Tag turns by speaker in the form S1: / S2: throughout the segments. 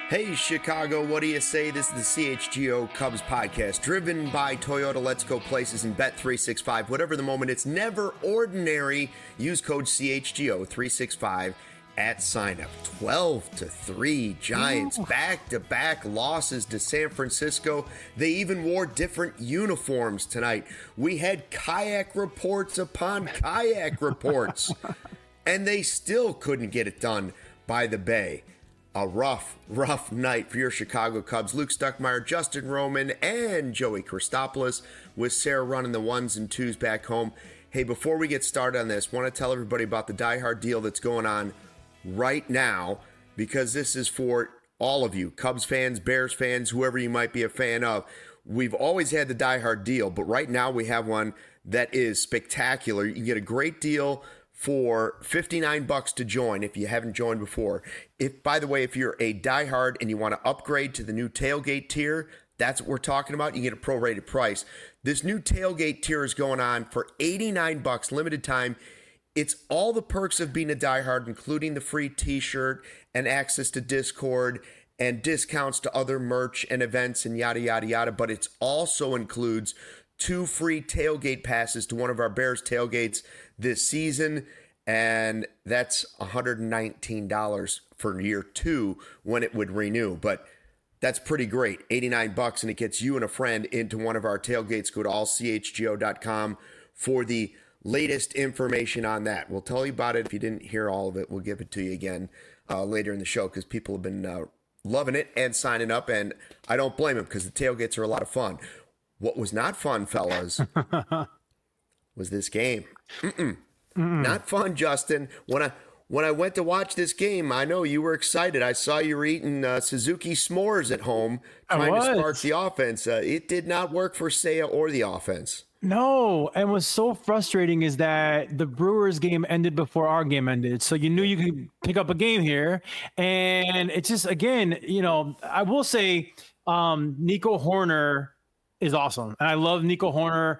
S1: Hey Chicago, what do you say? This is the CHGO Cubs podcast, driven by Toyota Let's Go Places and Bet365. Whatever the moment, it's never ordinary. Use code CHGO365 at sign up. 12-3 Giants, back-to-back losses to San Francisco. They even wore different uniforms tonight. We had kayak reports upon kayak reports, and they still couldn't get it done by the Bay. A rough night for your Chicago Cubs. Luke Stuckmeyer, Justin Roman, and Joey Christopoulos, with Sarah running the ones and twos back home. Hey, before we get started on this, want to tell everybody about the Die Hard deal that's going on right now, because this is for all of you, Cubs fans, Bears fans, whoever you might be a fan of. We've always had the Die Hard deal, but right now we have one that is spectacular. You can get a great deal for $59 to join if you haven't joined before. By the way, if you're a diehard and you want to upgrade to the new tailgate tier, that's what we're talking about. You get a prorated price. This new tailgate tier is going on for $89, limited time. It's all the perks of being a diehard, including the free t-shirt and access to Discord and discounts to other merch and events and yada, yada, yada. But it also includes 2 free tailgate passes to one of our Bears tailgates this season, and that's $119 for year 2 when it would renew. But that's pretty great. $89, and it gets you and a friend into one of our tailgates. Go to allchgo.com for the latest information on that. We'll tell you about it. If you didn't hear all of it, we'll give it to you again later in the show, because people have been loving it and signing up, and I don't blame them, because the tailgates are a lot of fun. What was not fun, fellas, was this game. Not fun, Justin. When I went to watch this game, I know you were excited. I saw you were eating Suzuki s'mores at home, trying to spark the offense. It did not work for Seiya or the offense.
S2: No, and what's so frustrating is that the Brewers game ended before our game ended. So you knew you could pick up a game here. And it's just, again, I will say Nico Hoerner is awesome. And I love Nico Hoerner.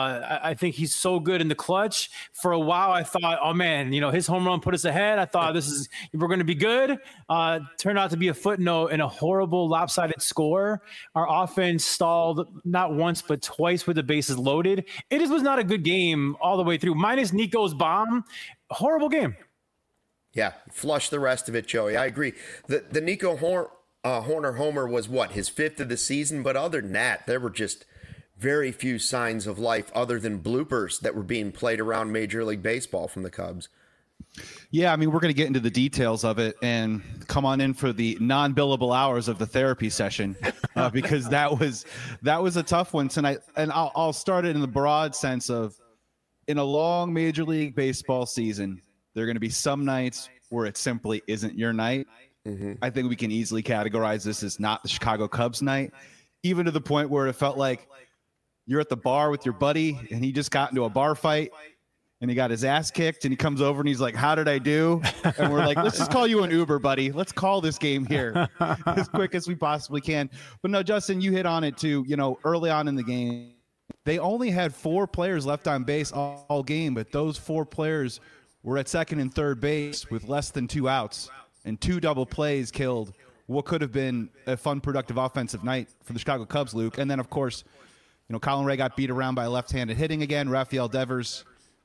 S2: I think he's so good in the clutch. For a while, I thought, oh man, his home run put us ahead. I thought we're going to be good. Turned out to be a footnote in a horrible lopsided score. Our offense stalled not once, but twice with the bases loaded. It just was not a good game all the way through, minus Nico's bomb. Horrible game.
S1: Yeah. Flush the rest of it, Joey. I agree. The Nico Hoerner homer was his 5th of the season, but other than that, there were just very few signs of life other than bloopers that were being played around Major League Baseball from the Cubs.
S3: Yeah, we're going to get into the details of it, and come on in for the non-billable hours of the therapy session, because that was a tough one tonight. And I'll start it in the broad sense of, in a long Major League Baseball season, there are going to be some nights where it simply isn't your night. I think we can easily categorize this as not the Chicago Cubs night, even to the point where it felt like you're at the bar with your buddy and he just got into a bar fight and he got his ass kicked, and he comes over and he's like, how did I do? And we're like, let's just call you an Uber, buddy. Let's call this game here as quick as we possibly can. But no, Justin, you hit on it too. Early on in the game, they only had 4 players left on base all game, but those 4 players were at second and third base with less than 2 outs. And 2 double plays killed what could have been a fun, productive offensive night for the Chicago Cubs, Luke. And then, of course, Colin Ray got beat around by left-handed hitting again. Rafael Devers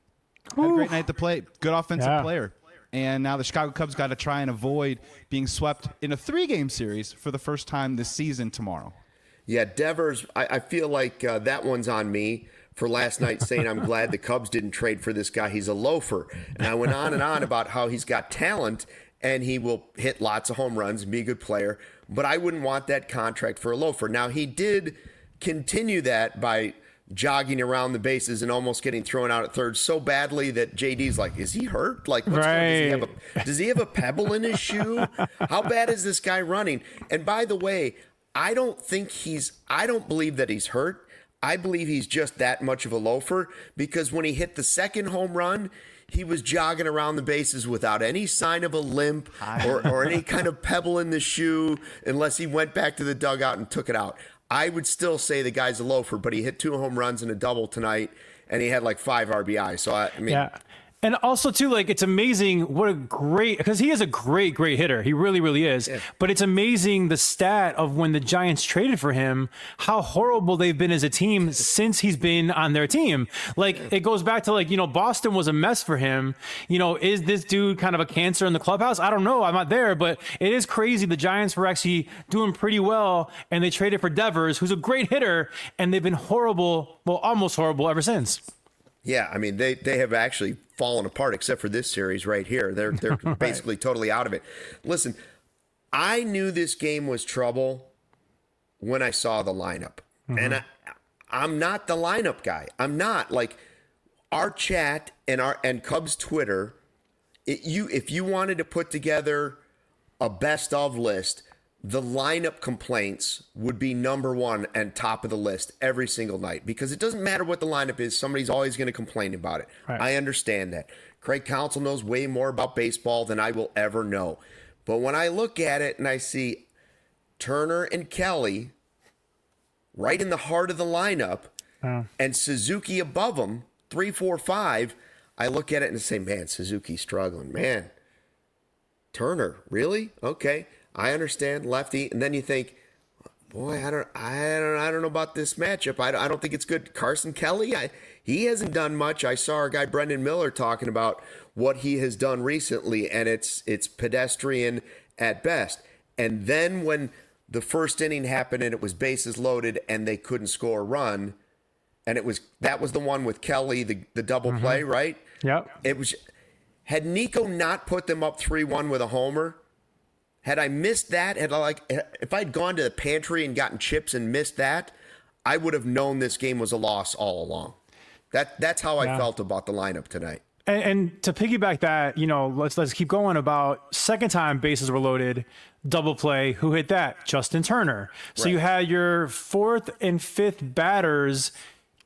S3: had a great night to play. Good offensive player. And now the Chicago Cubs got to try and avoid being swept in a 3-game series for the first time this season tomorrow.
S1: Yeah, Devers, I feel like that one's on me for last night, saying I'm glad the Cubs didn't trade for this guy. He's a loafer. And I went on and on about how he's got talent, and he will hit lots of home runs and be a good player. But I wouldn't want that contract for a loafer. Now, he did continue that by jogging around the bases and almost getting thrown out at third so badly that JD's like, is he hurt? Like, what's going on? Does he have a pebble in his shoe? How bad is this guy running? And by the way, I don't believe that he's hurt. I believe he's just that much of a loafer, because when he hit the second home run, he was jogging around the bases without any sign of a limp or any kind of pebble in the shoe, unless he went back to the dugout and took it out. I would still say the guy's a loafer, but he hit 2 home runs and a double tonight, and he had like 5 RBI. So,
S2: yeah. And also too, like, it's amazing what a great, because he is a great hitter. He really, really is. Yeah. But it's amazing the stat of when the Giants traded for him, how horrible they've been as a team since he's been on their team. Like, it goes back to, like, Boston was a mess for him. Is this dude kind of a cancer in the clubhouse? I don't know. I'm not there, but it is crazy. The Giants were actually doing pretty well, and they traded for Devers, who's a great hitter, and they've been horrible, well, almost horrible ever since.
S1: Yeah, I mean, they have actually fallen apart except for this series right here. They're right. Basically totally out of it. Listen, I knew this game was trouble when I saw the lineup. Mm-hmm. And I'm not the lineup guy. I'm not. Like, our chat and Cubs Twitter, if you wanted to put together a best of list, the lineup complaints would be number one and top of the list every single night, because it doesn't matter what the lineup is. Somebody's always going to complain about it. Right. I understand that. Craig Counsell knows way more about baseball than I will ever know. But when I look at it and I see Turner and Kelly right in the heart of the lineup and Suzuki above them, 3, 4, 5, I look at it and say, man, Suzuki's struggling. Man, Turner, really? Okay. I understand, lefty, and then you think, boy, I don't know about this matchup. I don't think it's good. Carson Kelly, he hasn't done much. I saw our guy Brendan Miller talking about what he has done recently, and it's pedestrian at best. And then when the first inning happened and it was bases loaded and they couldn't score a run, and that was the one with Kelly, the double play, right?
S2: Yep.
S1: Had Nico not put them up 3-1 with a homer. Had I missed that, if I'd gone to the pantry and gotten chips and missed that, I would have known this game was a loss all along. That's how I felt about the lineup tonight.
S2: And to piggyback that, let's keep going about second time bases were loaded, double play. Who hit that? Justin Turner. So you had your fourth and fifth batters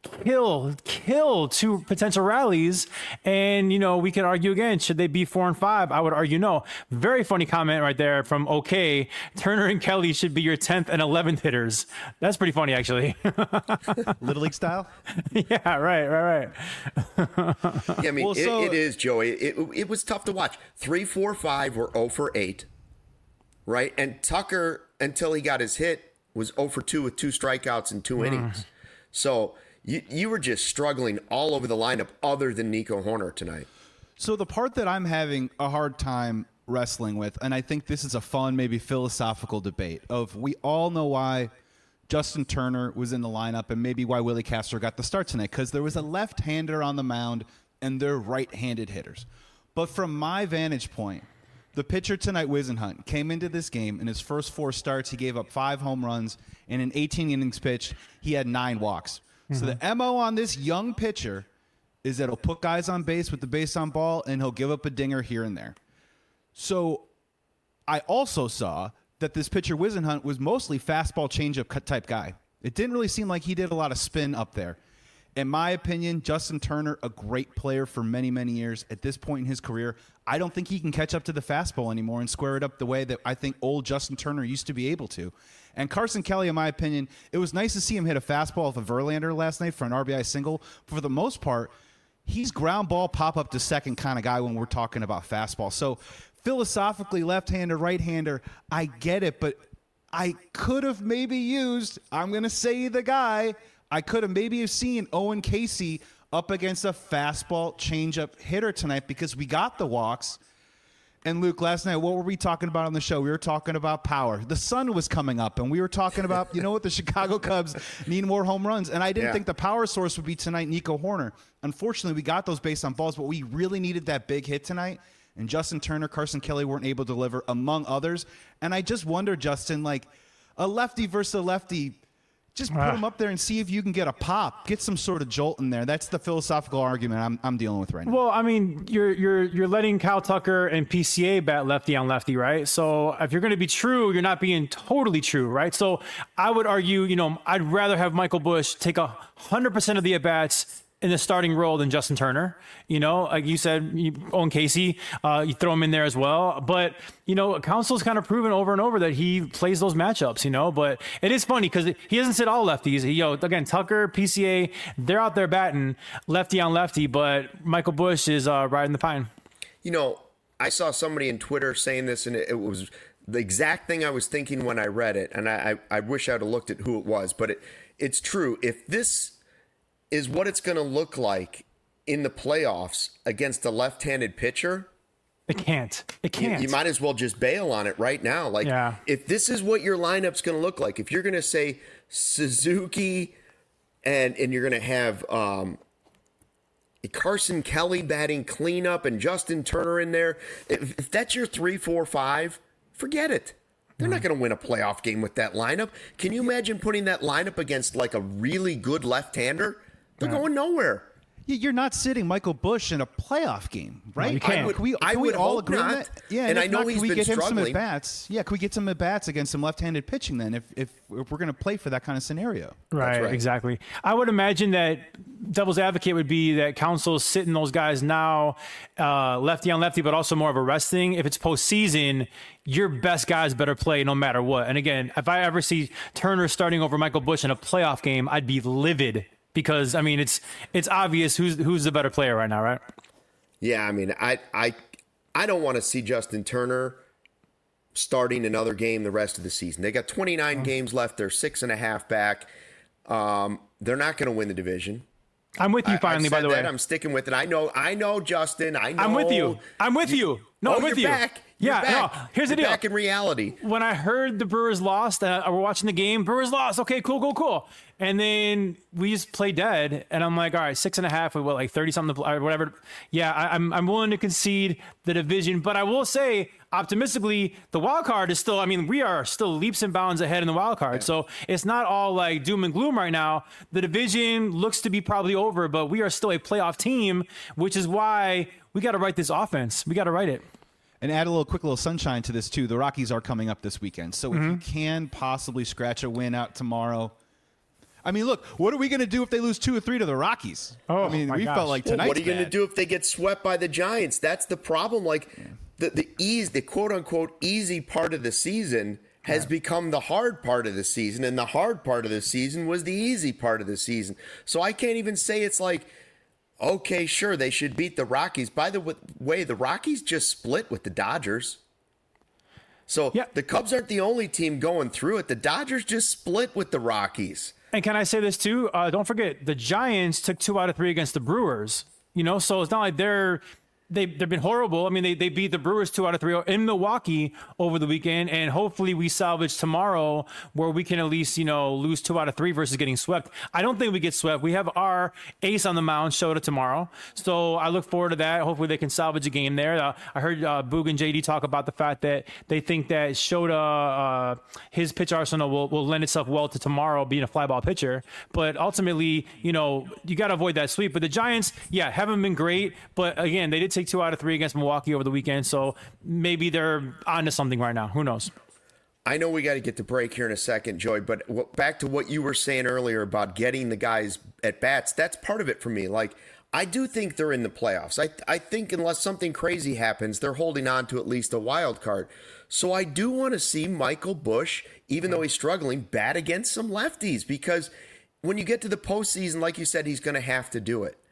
S2: kill two potential rallies, and we can argue again, should they be 4 and 5? I would argue no. Very funny comment right there from OK. Turner and Kelly should be your 10th and 11th hitters. That's pretty funny, actually.
S3: Little League style.
S2: Yeah, right.
S1: Yeah, I mean, it is, Joey. It was tough to watch. 3, 4, 5 were 0 for 8, right? And Tucker, until he got his hit, was 0 for 2 with 2 strikeouts in 2 innings. So you were just struggling all over the lineup other than Nico Hoerner tonight.
S3: So the part that I'm having a hard time wrestling with, and I think this is a fun, maybe philosophical debate of, we all know why Justin Turner was in the lineup and maybe why Willie Castro got the start tonight, because there was a left-hander on the mound and they're right-handed hitters. But from my vantage point, the pitcher tonight, Whisenhunt, came into this game. In his first 4 starts, he gave up 5 home runs. And in 18 innings pitched, he had 9 walks. So the MO on this young pitcher is that he'll put guys on base with the base on ball, and he'll give up a dinger here and there. So I also saw that this pitcher, Whisenhunt, was mostly fastball changeup type guy. It didn't really seem like he did a lot of spin up there. In my opinion, Justin Turner, a great player for many, many years. At this point in his career, I don't think he can catch up to the fastball anymore and square it up the way that I think old Justin Turner used to be able to. And Carson Kelly, in my opinion, it was nice to see him hit a fastball off of Verlander last night for an RBI single. But for the most part, he's ground ball, pop up to second kind of guy when we're talking about fastball. So philosophically, left-hander, right-hander, I get it. But I could have maybe used, I'm going to say the guy, I could have maybe have seen Owen Casey up against a fastball changeup hitter tonight, because we got the walks. And Luke, last night, what were we talking about on the show? We were talking about power. The sun was coming up, and we were talking about, the Chicago Cubs need more home runs. And I didn't think the power source would be tonight Nico Hoerner. Unfortunately, we got those based on balls, but we really needed that big hit tonight. And Justin Turner, Carson Kelly weren't able to deliver, among others. And I just wonder, Justin, like a lefty versus a lefty, just put them up there and see if you can get a pop, get some sort of jolt in there. That's the philosophical argument I'm dealing with right now.
S2: Well, I mean, you're letting Kyle Tucker and PCA bat lefty on lefty, right? So if you're going to be true, you're not being totally true, right? So I would argue, I'd rather have Michael Busch take 100% of the at-bats in the starting role than Justin Turner. You know, like you said, Owen Casey, you throw him in there as well. But, you know, Council's kind of proven over and over that he plays those matchups, you know. But it is funny because he doesn't sit all lefties. Again, Tucker, PCA, they're out there batting lefty on lefty, but Michael Busch is riding the pine.
S1: You know, I saw somebody in Twitter saying this, and it was the exact thing I was thinking when I read it, and I wish I'd have looked at who it was, but it's true. If this is what it's going to look like in the playoffs against a left-handed pitcher,
S2: it can't.
S1: You might as well just bail on it right now. Like, if this is what your lineup's going to look like, if you're going to say Suzuki and you're going to have Carson Kelly batting cleanup and Justin Turner in there, if that's your 3, 4, 5, forget it. They're not going to win a playoff game with that lineup. Can you imagine putting that lineup against like a really good left-hander? They're going nowhere.
S3: You're not sitting Michael Busch in a playoff game, right?
S2: No, you can't.
S3: Can we all agree on that? Yeah,
S1: and I know he's been struggling.
S3: Some at bats? Yeah, can we get some at bats against some left-handed pitching then? If we're going to play for that kind of scenario,
S2: right? Exactly. I would imagine that devil's advocate would be that Council's sitting those guys now, lefty on lefty, but also more of a rest thing. If it's postseason, your best guys better play no matter what. And again, if I ever see Turner starting over Michael Busch in a playoff game, I'd be livid. Because, I mean, it's obvious who's the better player right now, right?
S1: Yeah, I mean, I don't want to see Justin Turner starting another game the rest of the season. They got 29 games left. They're 6.5 back. They're not going to win the division.
S2: I'm with you finally, by the way.
S1: I'm sticking with it. I know, Justin. I know.
S2: I'm with you. No, I'm with you.
S1: Back.
S2: Yeah, no, here's the deal.
S1: Back in reality.
S2: When I heard the Brewers lost, we're watching the game. Brewers lost. Okay, cool. And then we just play dead. And I'm like, all right, 6.5 with like 30 something or whatever. Yeah, I'm willing to concede the division, but I will say optimistically, the wild card is still. I mean, we are still leaps and bounds ahead in the wild card. Yeah. So it's not all like doom and gloom right now. The division looks to be probably over, but we are still a playoff team, which is why we got to write this offense. We got to write it.
S3: And add a quick little sunshine to this, too. The Rockies are coming up this weekend. So if you can possibly scratch a win out tomorrow. I mean, look, what are we going to do if they lose 2 or 3 to the Rockies?
S2: Oh,
S3: I mean, we felt like tonight.
S1: What are you going to do if they get swept by the Giants? That's the problem. Like, the quote-unquote easy part of the season has become the hard part of the season. And the hard part of the season was the easy part of the season. So I can't even say it's like, okay, sure, they should beat the Rockies. By the way, the Rockies just split with the Dodgers. So the Cubs aren't the only team going through it. The Dodgers just split with the Rockies.
S2: And can I say this too? Don't forget, the Giants took 2 out of 3 against the Brewers. You know, so it's not like they've been horrible. I mean, they beat the Brewers 2 out of 3 in Milwaukee over the weekend, and hopefully we salvage tomorrow where we can at least, lose 2 out of 3 versus getting swept. I don't think we get swept. We have our ace on the mound, Shota, tomorrow. So I look forward to that. Hopefully they can salvage a game there. I heard Boog and JD talk about the fact that they think that Shota, his pitch arsenal will lend itself well to tomorrow being a fly ball pitcher. But ultimately, you got to avoid that sweep. But the Giants, haven't been great. But again, they did take 2 out of 3 against Milwaukee over the weekend, so maybe they're onto something right now. Who knows?
S1: I know we got to get to break here in a second, Joey, but back to what you were saying earlier about getting the guys at bats, that's part of it for me. Like, I do think they're in the playoffs. I think unless something crazy happens, they're holding on to at least a wild card. So I do want to see Michael Busch, even though he's struggling, bat against some lefties, because when you get to the postseason, like you said, he's going to have to do it.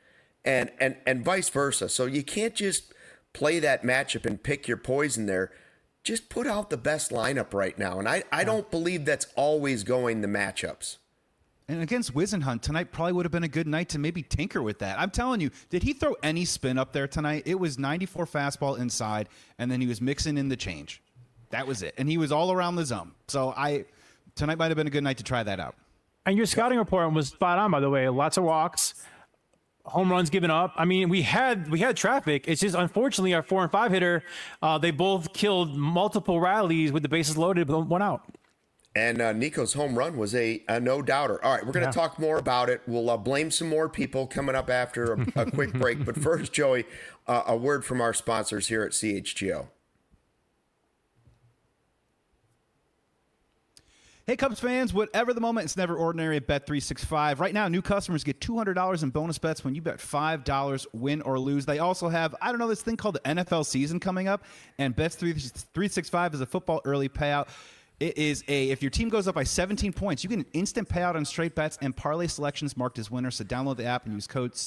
S1: And vice versa. So you can't just play that matchup and pick your poison there. Just put out the best lineup right now. And I don't believe that's always going the matchups.
S3: And against Whisenhunt, tonight probably would have been a good night to maybe tinker with that. I'm telling you, did he throw any spin up there tonight? It was 94 fastball inside, and then he was mixing in the change. That was it. And he was all around the zone. So tonight might have been a good night to try that out. And
S2: your scouting report was spot on, by the way. Lots of walks. Home runs given up. I mean, we had traffic. It's just unfortunately our 4 and 5 hitter. They both killed multiple rallies with the bases loaded, but 1 out.
S1: And Nico's home run was a no-doubter. All right, we're going to talk more about it. We'll blame some more people coming up after a quick break. But first, Joey, a word from our sponsors here at CHGO.
S3: Hey, Cubs fans, whatever the moment, it's never ordinary at Bet365. Right now, new customers get $200 in bonus bets when you bet $5, win or lose. They also have, this thing called the NFL season coming up, and Bet365 is a football early payout. It is if your team goes up by 17 points, you get an instant payout on straight bets and parlay selections marked as winners. So download the app and use code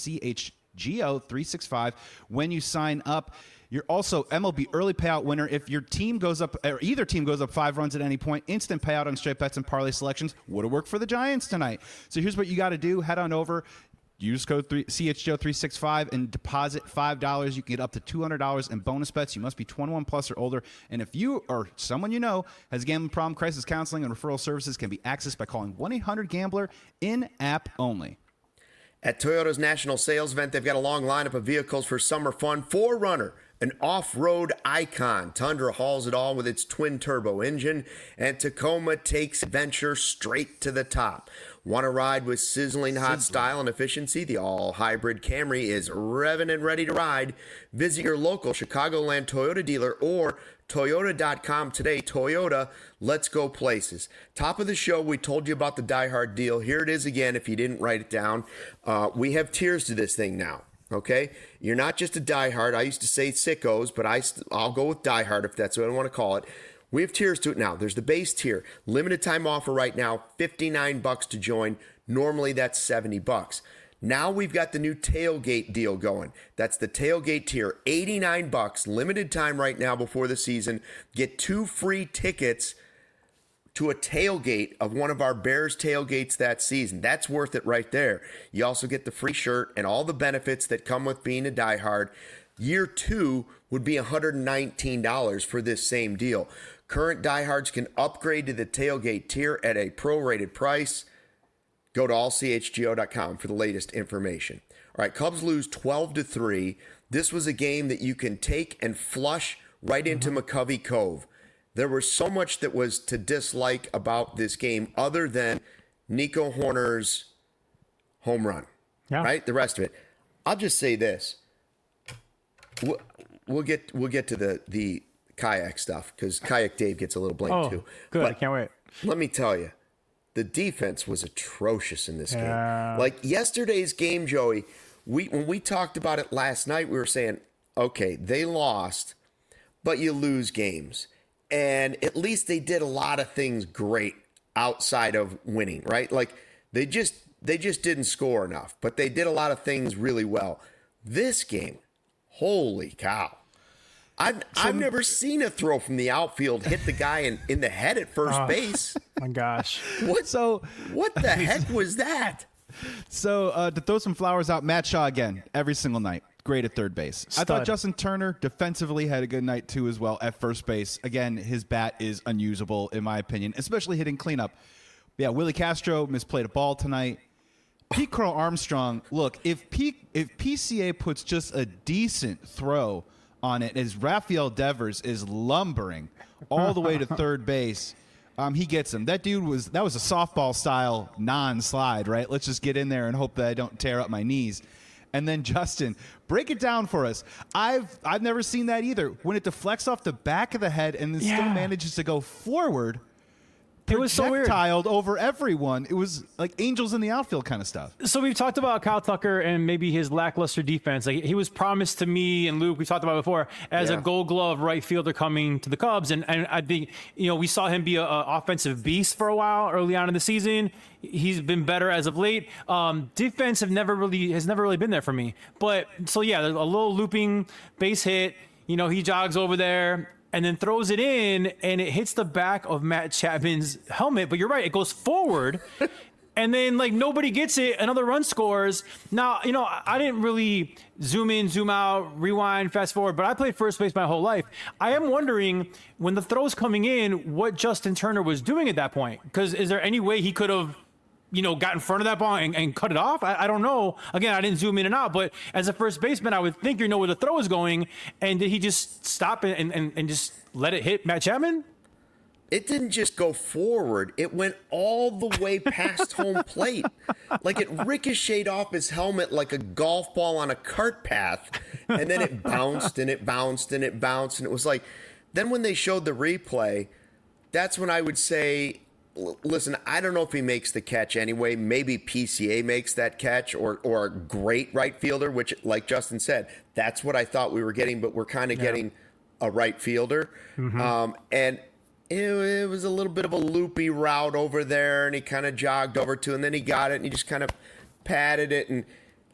S3: CHGO365 when you sign up. You're also MLB early payout winner if your team goes up, or either team goes up 5 runs at any point. Instant payout on straight bets and parlay selections. Would have worked for the Giants tonight. So here's what you got to do. Head on over. Use code CHGO365 and deposit $5. You can get up to $200 in bonus bets. You must be 21 plus or older. And if you or someone you know has a gambling problem, crisis counseling and referral services can be accessed by calling 1-800-GAMBLER in-app only.
S1: At Toyota's national sales event, they've got a long lineup of vehicles for summer fun. 4Runner, an off-road icon. Tundra hauls it all with its twin-turbo engine, and Tacoma takes adventure straight to the top. Want to ride with sizzling hot style and efficiency? The all-hybrid Camry is revving and ready to ride. Visit your local Chicagoland Toyota dealer or Toyota.com today. Toyota, let's go places. Top of the show, we told you about the Die Hard deal. Here it is again if you didn't write it down. We have tiers to this thing now. Okay, you're not just a diehard. I used to say sickos, but I'll go with diehard if that's what I want to call it. We have tiers to it now. There's the base tier, limited time offer right now, $59 to join. Normally that's $70. Now we've got the new tailgate deal going. That's the tailgate tier, $89, limited time right now before the season. Get 2 free tickets to a tailgate of one of our Bears tailgates that season. That's worth it right there. You also get the free shirt and all the benefits that come with being a diehard. Year 2 would be $119 for this same deal. Current diehards can upgrade to the tailgate tier at a prorated price. Go to allchgo.com for the latest information. All right, Cubs lose 12-3. This was a game that you can take and flush right into McCovey Cove. There was so much that was to dislike about this game other than Nico Hoerner's home run, right? The rest of it. I'll just say this. We'll get to the kayak stuff because Kayak Dave gets a little blamed too.
S2: Good.
S1: But
S2: I can't wait.
S1: let me tell you, the defense was atrocious in this game. Like yesterday's game, Joey, when we talked about it last night, we were saying, okay, they lost, but you lose games. And at least they did a lot of things great outside of winning, right? Like they just didn't score enough, but they did a lot of things really well. This game, holy cow. I've never seen a throw from the outfield hit the guy in the head at first base.
S2: My gosh.
S1: What the heck was that?
S3: So to throw some flowers out, Matt Shaw again, every single night. Great at third base.
S2: Stud.
S3: I thought Justin Turner defensively had a good night too as well at first base. Again, his bat is unusable in my opinion, especially hitting cleanup. Yeah, Willie Castro misplayed a ball tonight. Pete Crow Armstrong, look, if PCA puts just a decent throw on it as Rafael Devers is lumbering all the way to third base, he gets him. That was a softball style non-slide, right? Let's just get in there and hope that I don't tear up my knees. And then Justin, break it down for us. I've never seen that either. When it deflects off the back of the head and then still manages to go forward.
S2: It was so weird.
S3: Projectiled over everyone. It was like angels in the outfield kind of stuff.
S2: So we've talked about Kyle Tucker and maybe his lackluster defense. Like he was promised to me and Luke, we talked about before, as a Gold Glove right fielder coming to the Cubs. And I think, we saw him be an offensive beast for a while early on in the season. He's been better as of late. Defense has never really been there for me. But so there's a little looping base hit. He jogs over there and then throws it in, and it hits the back of Matt Chapman's helmet. But you're right, it goes forward, and then nobody gets it. Another run scores. Now, I didn't really zoom in, zoom out, rewind, fast forward, but I played first base my whole life. I am wondering when the throw's coming in, what Justin Turner was doing at that point. Because is there any way he could have got in front of that ball and cut it off? I don't know. Again, I didn't zoom in and out, but as a first baseman, I would think where the throw is going. And did he just stop and just let it hit Matt Chapman?
S1: It didn't just go forward. It went all the way past home plate. Like it ricocheted off his helmet like a golf ball on a cart path. And then it bounced and it bounced and it bounced. And it was like, then when they showed the replay, that's when I would say, listen, I don't know if he makes the catch anyway. Maybe PCA makes that catch or a great right fielder, which, like Justin said, that's what I thought we were getting, but we're kind of getting a right fielder. And it was a little bit of a loopy route over there, and he kind of jogged over to, and then he got it, and he just kind of patted it, and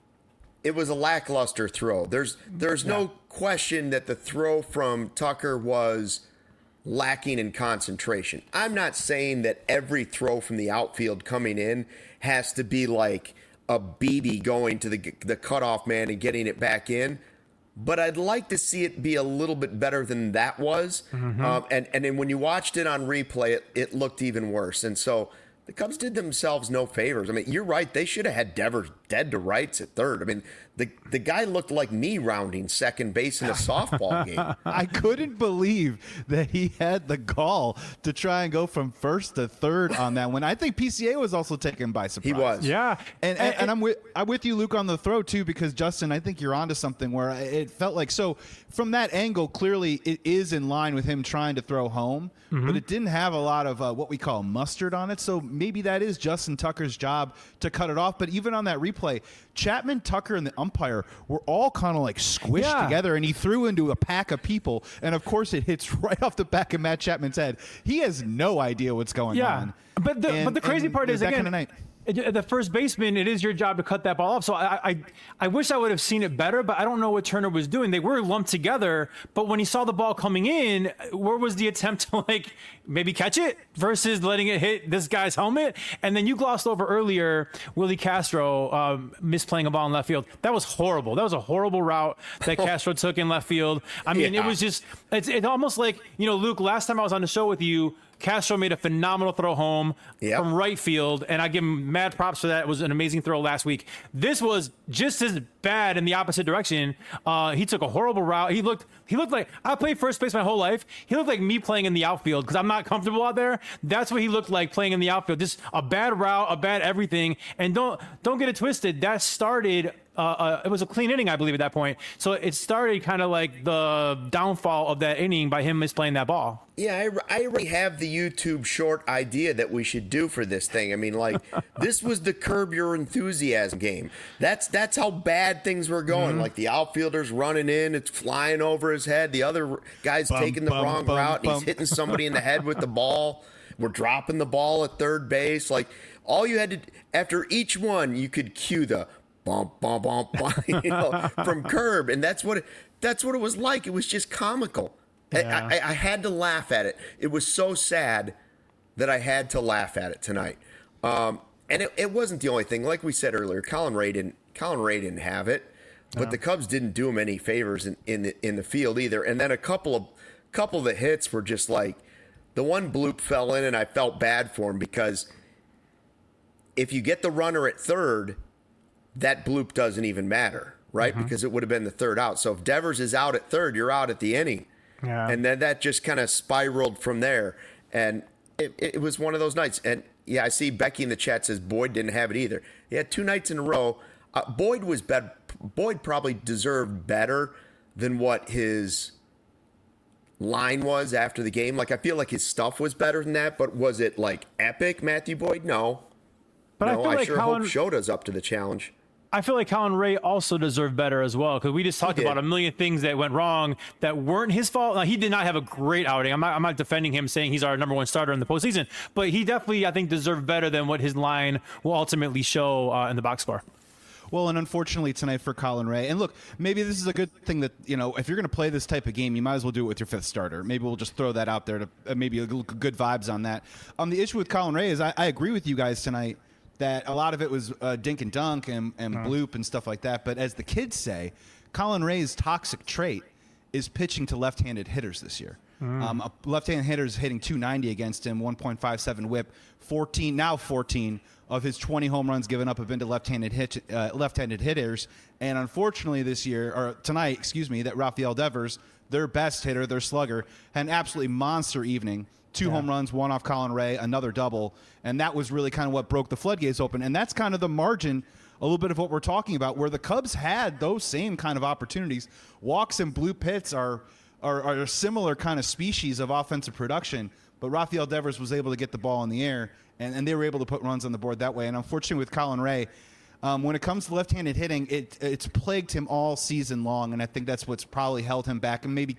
S1: it was a lackluster throw. There's no question that the throw from Tucker was lacking in concentration. I'm not saying that every throw from the outfield coming in has to be like a BB going to the cutoff man and getting it back in, but I'd like to see it be a little bit better than that was. And then when you watched it on replay, it looked even worse. And so the Cubs did themselves no favors. I mean, you're right. They should have had Devers dead to rights at third. I mean, the guy looked like me rounding second base in a softball game.
S3: I couldn't believe that he had the gall to try and go from first to third on that one. I think PCA was also taken by surprise.
S1: He was.
S2: Yeah.
S3: And I'm with you, Luke, on the throw, too, because, Justin, I think you're onto something where it felt like, so from that angle, clearly it is in line with him trying to throw home, but it didn't have a lot of what we call mustard on it. So maybe that is Justin Tucker's job to cut it off. But even on that replay, Chapman, Tucker, and the umpire were all kind of like squished together, and he threw into a pack of people. And, of course, it hits right off the back of Matt Chapman's head. He has no idea what's going on.
S2: But the crazy part is, again, the first baseman, it is your job to cut that ball off. So I wish I would have seen it better, but I don't know what Turner was doing. They were lumped together, but when he saw the ball coming in, where was the attempt to like maybe catch it versus letting it hit this guy's helmet? And then you glossed over earlier Willie Castro misplaying a ball in left field. That was horrible. That was a horrible route that Castro took in left field. I mean, it was just, it's almost like, Luke, last time I was on the show with you, Castro made a phenomenal throw home from right field, and I give him mad props for that. It was an amazing throw last week. This was just as bad in the opposite direction. He took a horrible route. He looked like, I played first base my whole life. He looked like me playing in the outfield because I'm not comfortable out there. That's what he looked like playing in the outfield. Just a bad route, a bad everything. And don't get it twisted. That started. It was a clean inning, I believe, at that point. So it started kind of like the downfall of that inning by him misplaying that ball.
S1: Yeah, I already have the YouTube short idea that we should do for this thing. I mean, like, this was the Curb Your Enthusiasm game. That's how bad things were going. Like, the outfielder's running in, it's flying over his head. The other guy's taking the wrong route, and he's hitting somebody in the head with the ball. We're dropping the ball at third base. Like, all you had to, after each one, you could cue the bump, bump, bump, bump, from Curb, and that's what it was like. It was just comical. Yeah. I had to laugh at it. It was so sad that I had to laugh at it tonight. And it wasn't the only thing. Like we said earlier, Colin Ray didn't have it, but the Cubs didn't do him any favors in the field either. And then a couple of the hits were just like, the one bloop fell in, and I felt bad for him because if you get the runner at third, that bloop doesn't even matter, right? Because it would have been the third out. So if Devers is out at third, you're out at the inning. Yeah. And then that just kind of spiraled from there. And it was one of those nights. And, yeah, I see Becky in the chat says Boyd didn't have it either. He had 2 nights in a row. Boyd was bad. Boyd probably deserved better than what his line was after the game. Like, I feel like his stuff was better than that. But was it, like, epic, Matthew Boyd? No.
S2: But
S1: no, I sure hope Shota's up to the challenge.
S2: I feel like Colin Ray also deserved better as well because we just talked about a million things that went wrong that weren't his fault. Now, he did not have a great outing. I'm not defending him saying he's our number one starter in the postseason, but he definitely, I think, deserved better than what his line will ultimately show in the box score.
S3: Well, and unfortunately tonight for Colin Ray, and look, maybe this is a good thing that, if you're going to play this type of game, you might as well do it with your 5th starter. Maybe we'll just throw that out there to maybe good vibes on that. The issue with Colin Ray is I agree with you guys tonight that a lot of it was dink and dunk and bloop and stuff like that. But as the kids say, Colin Ray's toxic trait is pitching to left-handed hitters this year. A left-handed hitter is hitting 290 against him, 1.57 whip, 14 of his 20 home runs given up have been to left-handed hitters. And unfortunately tonight, that Rafael Devers, their best hitter, their slugger, had an absolutely monster evening. 2 home runs, 1 off Colin Ray, another double. And that was really kind of what broke the floodgates open. And that's kind of the margin, a little bit of what we're talking about, where the Cubs had those same kind of opportunities. Walks and bloop hits are a similar kind of species of offensive production. but Rafael Devers was able to get the ball in the air, and they were able to put runs on the board that way. And unfortunately with Colin Ray, when it comes to left-handed hitting, it's plagued him all season long, and I think that's what's probably held him back and maybe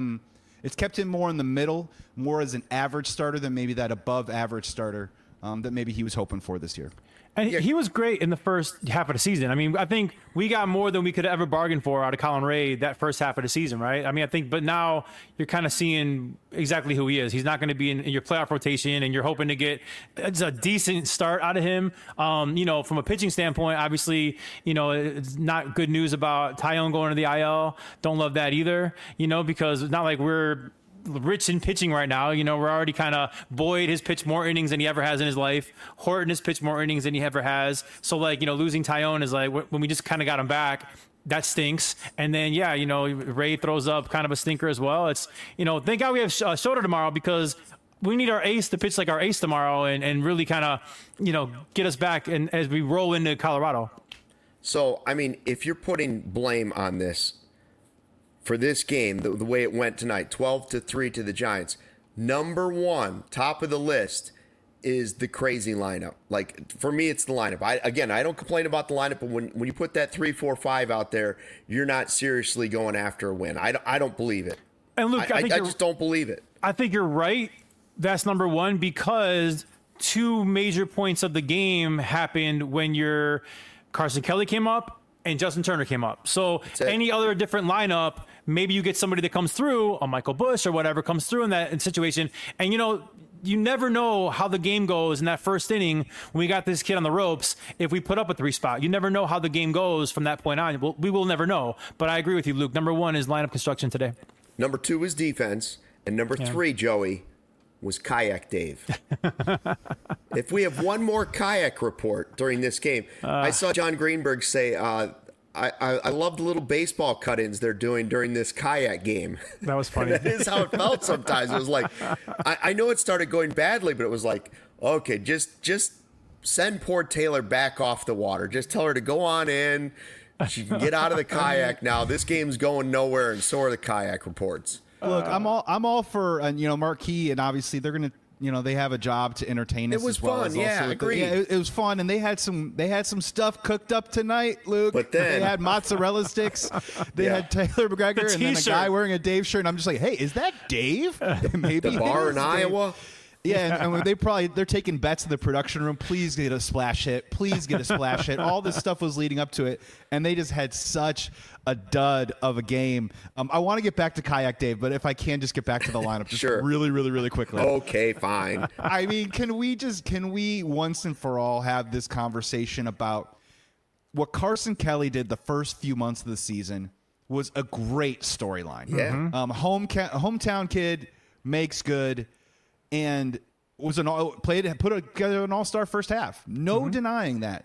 S3: it's kept him more in the middle, more as an average starter than maybe that above-average starter that maybe he was hoping for this year.
S2: And he was great in the first half of the season. I mean, I think we got more than we could ever bargain for out of Colin Ray that first half of the season, right? I mean, but now you're kind of seeing exactly who he is. He's not going to be in your playoff rotation, and you're hoping to get a decent start out of him. From a pitching standpoint, obviously, it's not good news about Taillon going to the IL. Don't love that either, because it's not like we're rich in pitching right now. We're already kind of Boyd has pitched more innings than he ever has in his life. Horton has pitched more innings than he ever has. So losing Taillon is like when we just kind of got him back, that stinks. And then, Ray throws up kind of a stinker as well. It's, thank God we have Shota tomorrow, because we need our ace to pitch like our ace tomorrow and really kind of, get us back and as we roll into Colorado.
S1: So, I mean, if you're putting blame on this, for this game, the way it went tonight, 12-3 to the Giants, number one, top of the list, is the crazy lineup. Like, for me, it's the lineup. I don't complain about the lineup, but when you put that 3-4-5 out there, you're not seriously going after a win. I don't believe it.
S2: And Luke, I
S1: just don't believe it.
S2: I think you're right. That's number one, because two major points of the game happened when your Carson Kelly came up and Justin Turner came up. So any other different lineup, maybe you get somebody that comes through, a Michael Busch or whatever comes through in that situation. And, you never know how the game goes in that first inning when we got this kid on the ropes. If we put up a 3 spot, you never know how the game goes from that point on. We will never know. But I agree with you, Luke. Number one is lineup construction today.
S1: Number two is defense. And number three, Joey, was Kayak Dave. If we have one more kayak report during this game, I saw John Greenberg say, I love the little baseball cut-ins they're doing during this kayak game.
S2: That was funny.
S1: That is how it felt sometimes. It was like, I know it started going badly, but it was like, okay, just send poor Taylor back off the water. Just tell her to go on in. She can get out of the kayak now. This game's going nowhere, and so are the kayak reports.
S3: Look, I'm all for Marquee, and obviously they're gonna they have a job to entertain us.
S1: It was
S3: as well
S1: fun,
S3: as
S1: yeah, agreed.
S3: It was fun, and they had some stuff cooked up tonight, Luke.
S1: But then
S3: they had mozzarella sticks. They had Taylor McGregor, and then a guy wearing a Dave shirt. And I'm just like, hey, is that Dave? Maybe
S1: the bar in Iowa.
S3: Yeah, and they're taking bets in the production room. Please get a splash hit. Please get a splash hit. All this stuff was leading up to it, and they just had such a dud of a game. I want to get back to Kayak Dave, but if I can, just get back to the lineup just really, really, really quickly.
S1: Okay, fine.
S3: I mean, can we once and for all have this conversation about what Carson Kelly did the first few months of the season was a great storyline.
S1: Yeah.
S3: Hometown kid makes good. And put together an all-star first half. No denying that.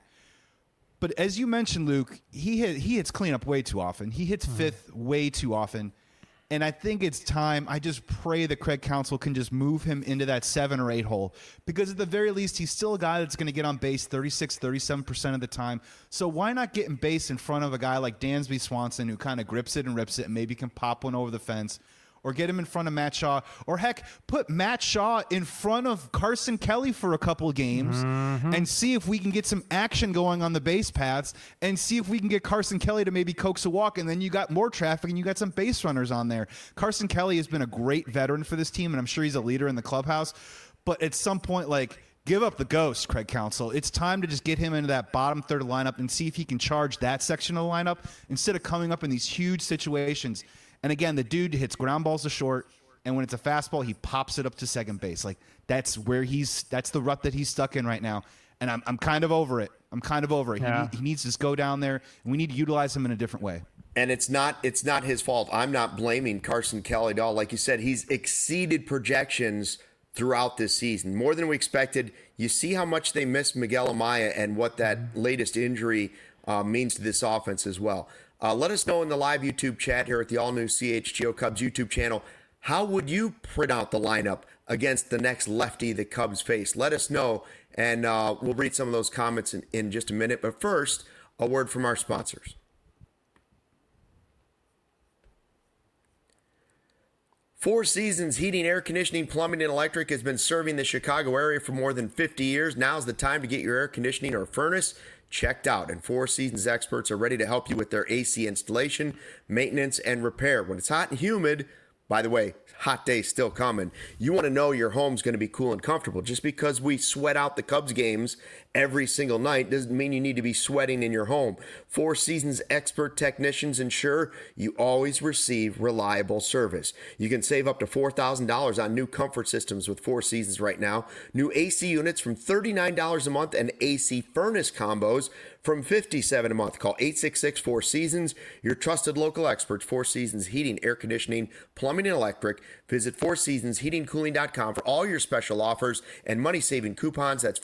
S3: But as you mentioned, Luke, he hits cleanup way too often. He hits fifth way too often. And I think it's time. I just pray that Craig Counsell can just move him into that 7 or 8 hole. Because at the very least, he's still a guy that's going to get on base 36, 37% of the time. So why not get in base in front of a guy like Dansby Swanson, who kind of grips it and rips it and maybe can pop one over the fence? Or get him in front of Matt Shaw. Or heck, put Matt Shaw in front of Carson Kelly for a couple games and see if we can get some action going on the base paths and see if we can get Carson Kelly to maybe coax a walk, and then you got more traffic and you got some base runners on there. Carson Kelly has been a great veteran for this team, and I'm sure he's a leader in the clubhouse. But at some point, give up the ghost, Craig Counsell. It's time to just get him into that bottom third of the lineup and see if he can charge that section of the lineup instead of coming up in these huge situations. And again, the dude hits ground balls to short, and when it's a fastball, he pops it up to second base. That's the rut that he's stuck in right now. And I'm kind of over it. Yeah. He needs to just go down there, and we need to utilize him in a different way.
S1: And it's not his fault. I'm not blaming Carson Kelly at all. Like you said, he's exceeded projections throughout this season, more than we expected. You see how much they missed Miguel Amaya and what that latest injury means to this offense as well. Let us know in the live YouTube chat here at the all-new CHGO Cubs YouTube channel, how would you print out the lineup against the next lefty the Cubs face? Let us know, and we'll read some of those comments in just a minute. But first, a word from our sponsors. Four Seasons Heating, Air Conditioning, Plumbing, and Electric has been serving the Chicago area for more than 50 years. Now's the time to get your air conditioning or furnace checked out, and Four Seasons experts are ready to help you with their AC installation, maintenance, and repair. When it's hot and humid, by the way, hot days still coming, you want to know your home's going to be cool and comfortable. Just because we sweat out the Cubs games every single night doesn't mean you need to be sweating in your home. Four Seasons expert technicians ensure you always receive reliable service. You can save up to $4,000 on new comfort systems with Four Seasons right now. New AC units from $39 a month and AC furnace combos from $57 a month. Call 866-4SEASONS, your trusted local experts, Four Seasons Heating, Air Conditioning, Plumbing, and Electric. Visit FourSeasonsHeatingCooling.com for all your special offers and money-saving coupons. That's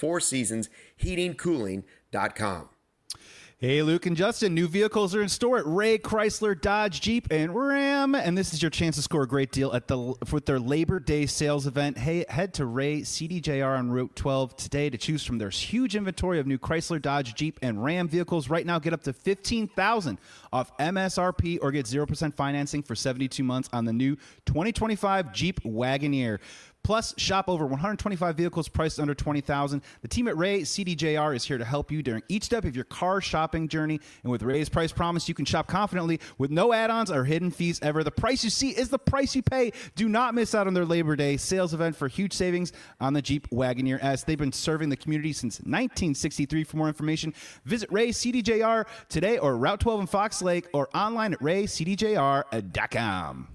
S1: FourSeasonsHeatingCooling.com.
S3: Hey, Luke and Justin, new vehicles are in store at Ray Chrysler, Dodge, Jeep, and Ram, and this is your chance to score a great deal with their Labor Day sales event. Hey, head to Ray CDJR on Route 12 today to choose from their huge inventory of new Chrysler, Dodge, Jeep, and Ram vehicles. Right now, get up to $15,000 off MSRP or get 0% financing for 72 months on the new 2025 Jeep Wagoneer. Plus, shop over 125 vehicles priced under $20,000. The team at Ray CDJR is here to help you during each step of your car shopping journey. And with Ray's price promise, you can shop confidently with no add-ons or hidden fees ever. The price you see is the price you pay. Do not miss out on their Labor Day sales event for huge savings on the Jeep Wagoneer, as they've been serving the community since 1963. For more information, visit Ray CDJR today or Route 12 in Fox Lake or online at raycdjr.com.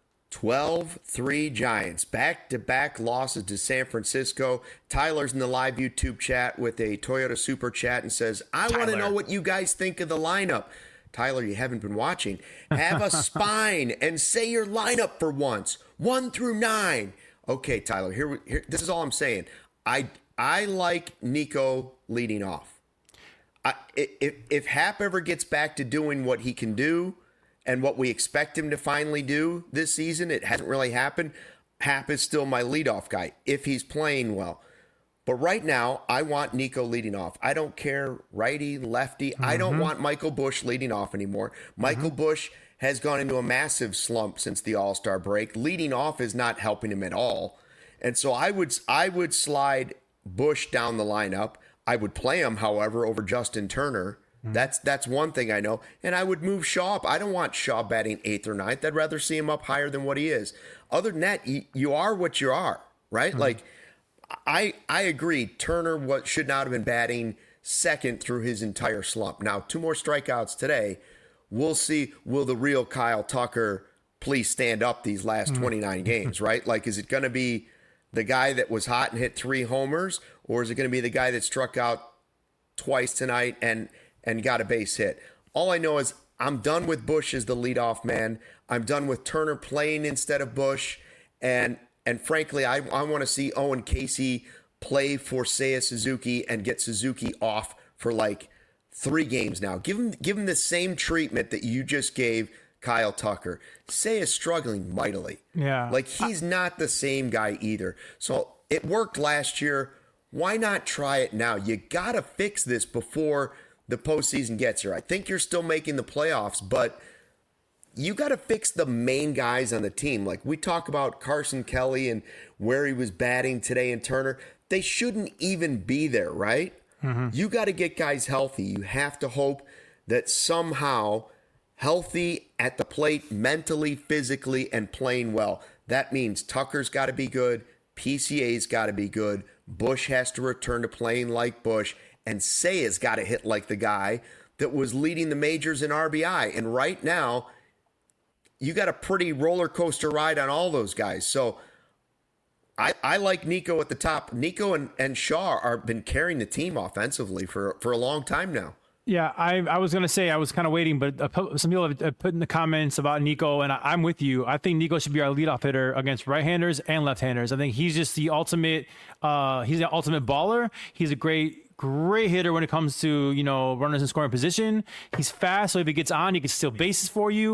S1: 12-3 Giants. Back-to-back losses to San Francisco. Tyler's in the live YouTube chat with a Toyota Super Chat and says, I want to know what you guys think of the lineup. Tyler, you haven't been watching. Have a spine and say your lineup for once. 1 through 9. Okay, Tyler, here this is all I'm saying. I like Nico leading off. If Hap ever gets back to doing what he can do, and what we expect him to finally do this season, it hasn't really happened. Hap is still my leadoff guy if he's playing well. But right now, I want Nico leading off. I don't care righty, lefty. I don't want Michael Busch leading off anymore. Michael Busch has gone into a massive slump since the All-Star break. Leading off is not helping him at all. And so I would slide Busch down the lineup. I would play him, however, over Justin Turner. That's one thing I know. And I would move Shaw up. I don't want Shaw batting 8th or 9th. I'd rather see him up higher than what he is. Other than that, you are what you are, right? Like, I agree. Turner should not have been batting second through his entire slump. Now, 2 more strikeouts today. We'll see, will the real Kyle Tucker please stand up these last 29 games, right? Like, is it going to be the guy that was hot and hit 3 homers, or is it going to be the guy that struck out twice tonight and got a base hit? All I know is I'm done with Busch as the leadoff man. I'm done with Turner playing instead of Busch. And frankly, I want to see Owen Casey play for Seiya Suzuki and get Suzuki off for like 3 games now. Give him the same treatment that you just gave Kyle Tucker. Seiya's struggling mightily.
S2: Yeah.
S1: Like, he's not the same guy either. So it worked last year. Why not try it now? You got to fix this before the postseason gets here. I think you're still making the playoffs, but you got to fix the main guys on the team. Like, we talk about Carson Kelly and where he was batting today and Turner. They shouldn't even be there, right? You got to get guys healthy. You have to hope that somehow healthy at the plate, mentally, physically, and playing well. That means Tucker's got to be good. PCA's got to be good. Busch has to return to playing like Busch. And Seiya's got to hit like the guy that was leading the majors in RBI. And right now, you got a pretty roller coaster ride on all those guys. So I like Nico at the top. Nico and Shaw have been carrying the team offensively for a long time now.
S2: Yeah, I was going to say I was kind of waiting, but some people have put in the comments about Nico, and I'm with you. I think Nico should be our leadoff hitter against right-handers and left-handers. I think he's just the ultimate he's the ultimate baller. He's a great hitter when it comes to, runners in scoring position. He's fast, so if he gets on, he can steal bases for you.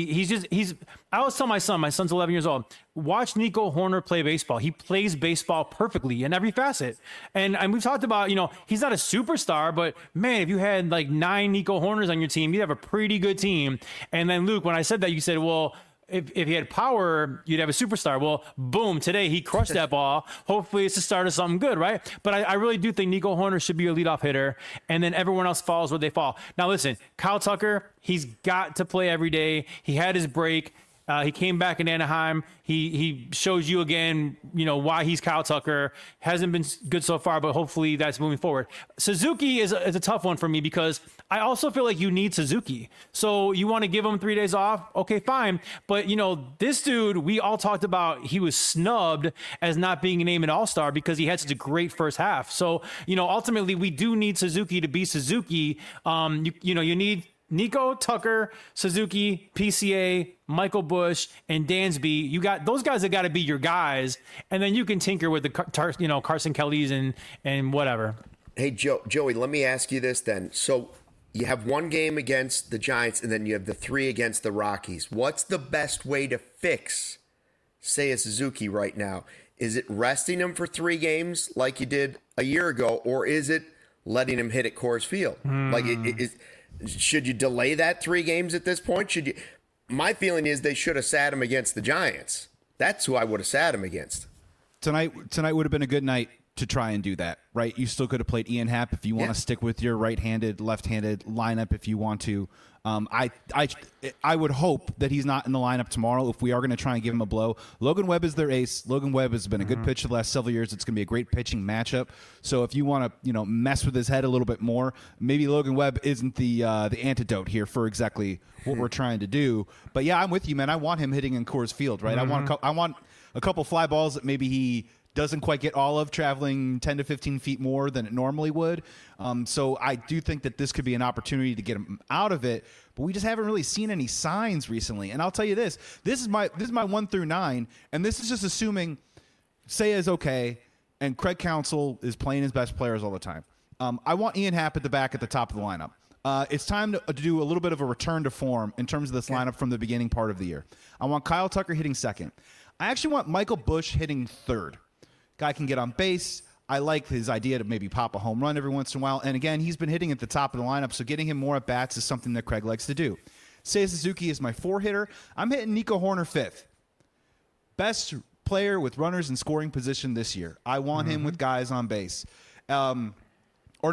S2: I always tell my son's 11 years old, watch Nico Hoerner play baseball. He plays baseball perfectly in every facet. And we've talked about, he's not a superstar, but man, if you had like 9 Nico Hoerners on your team, you'd have a pretty good team. And then Luke, when I said that, you said, well, if he had power, you'd have a superstar. Well, boom, today he crushed that ball. Hopefully it's the start of something good, right? But I really do think Nico Hoerner should be a leadoff hitter, and then everyone else falls where they fall. Now, listen, Kyle Tucker, he's got to play every day. He had his break. He came back in Anaheim. He shows you again, why he's Kyle Tucker. Hasn't been good so far, but hopefully that's moving forward. Suzuki is a tough one for me because I also feel like you need Suzuki. So you want to give him 3 days off? Okay, fine. But, this dude, we all talked about, he was snubbed as not being named an all-star because he had such a great first half. So, ultimately we do need Suzuki to be Suzuki. You need Nico, Tucker, Suzuki, PCA, Michael Busch, and Dansby. You got those guys that got to be your guys, and then you can tinker with the Carson Kellys and whatever.
S1: Hey, Joey, let me ask you this then. So you have one game against the Giants, and then you have the 3 against the Rockies. What's the best way to fix Seiya Suzuki right now? Is it resting him for 3 games like you did a year ago, or is it letting him hit at Coors Field? Should you delay that 3 games at this point? My feeling is they should have sat him against the Giants. That's who I would have sat him against.
S3: Tonight would have been a good night to try and do that, right? You still could have played Ian Happ if you want to stick with your right-handed, left-handed lineup if you want to. I would hope that he's not in the lineup tomorrow if we are going to try and give him a blow. Logan Webb is their ace. Logan Webb has been a good pitcher the last several years. It's going to be a great pitching matchup. So if you want to, mess with his head a little bit more, maybe Logan Webb isn't the antidote here for exactly what we're trying to do. But yeah, I'm with you, man. I want him hitting in Coors Field, right? I want a couple fly balls that maybe he doesn't quite get all of, traveling 10 to 15 feet more than it normally would. So I do think that this could be an opportunity to get him out of it, but we just haven't really seen any signs recently. And I'll tell you this is my 1 through 9, and this is just assuming Seiya is okay and Craig Counsell is playing his best players all the time. I want Ian Happ at the back at the top of the lineup. It's time to do a little bit of a return to form in terms of this lineup from the beginning part of the year. I want Kyle Tucker hitting second. I actually want Michael Busch hitting third. Guy can get on base. I like his idea to maybe pop a home run every once in a while. And again, he's been hitting at the top of the lineup, so getting him more at bats is something that Craig likes to do. Seiya Suzuki is my 4 hitter. I'm hitting Nico Hoerner 5th. Best player with runners in scoring position this year. I want him with guys on base. I'm doing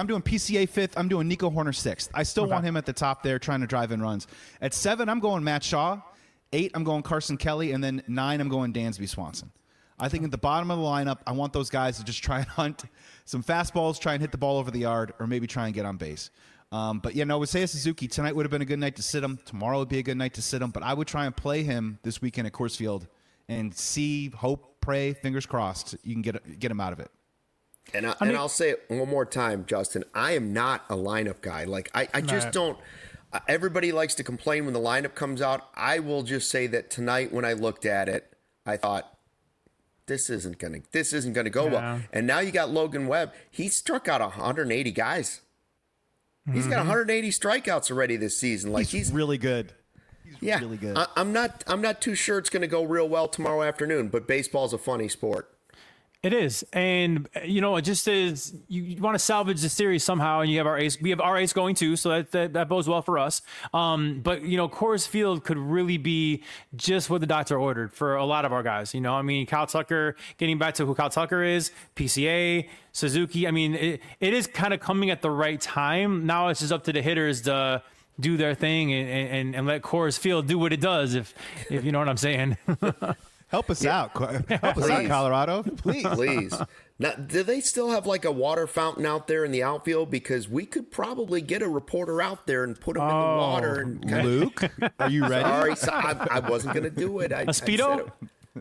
S3: PCA 5th. I'm doing Nico Hoerner 6th. I still want him at the top there trying to drive in runs. At 7, I'm going Matt Shaw. 8, I'm going Carson Kelly. And then 9, I'm going Dansby Swanson. I think at the bottom of the lineup, I want those guys to just try and hunt some fastballs, try and hit the ball over the yard, or maybe try and get on base. With Seiya Suzuki, tonight would have been a good night to sit him. Tomorrow would be a good night to sit him. But I would try and play him this weekend at Coors Field and see, hope, pray, fingers crossed, you can get him out of it.
S1: And I'll say it one more time, Justin. I am not a lineup guy. Like I just don't. Everybody likes to complain when the lineup comes out. I will just say that tonight when I looked at it, I thought, this isn't gonna go well. And now you got Logan Webb. He struck out 180 guys. He's got 180 strikeouts already this season. Like he's
S3: really good.
S1: He's really good. I'm not too sure it's gonna go real well tomorrow afternoon. But baseball's a funny sport.
S2: It is. And, it just is, you want to salvage the series somehow, and you have our ace. We have our ace going too, so that bodes well for us. But, Coors Field could really be just what the doctor ordered for a lot of our guys. Kyle Tucker, getting back to who Kyle Tucker is, PCA, Suzuki. It is kind of coming at the right time. Now it's just up to the hitters to do their thing and let Coors Field do what it does, if you know what I'm saying.
S3: Help us out. Help us out, Colorado.
S1: Please. Now, do they still have like a water fountain out there in the outfield? Because we could probably get a reporter out there and put him in the water.
S3: Luke, are you ready?
S1: Sorry, I wasn't going to do it.
S2: A Speedo?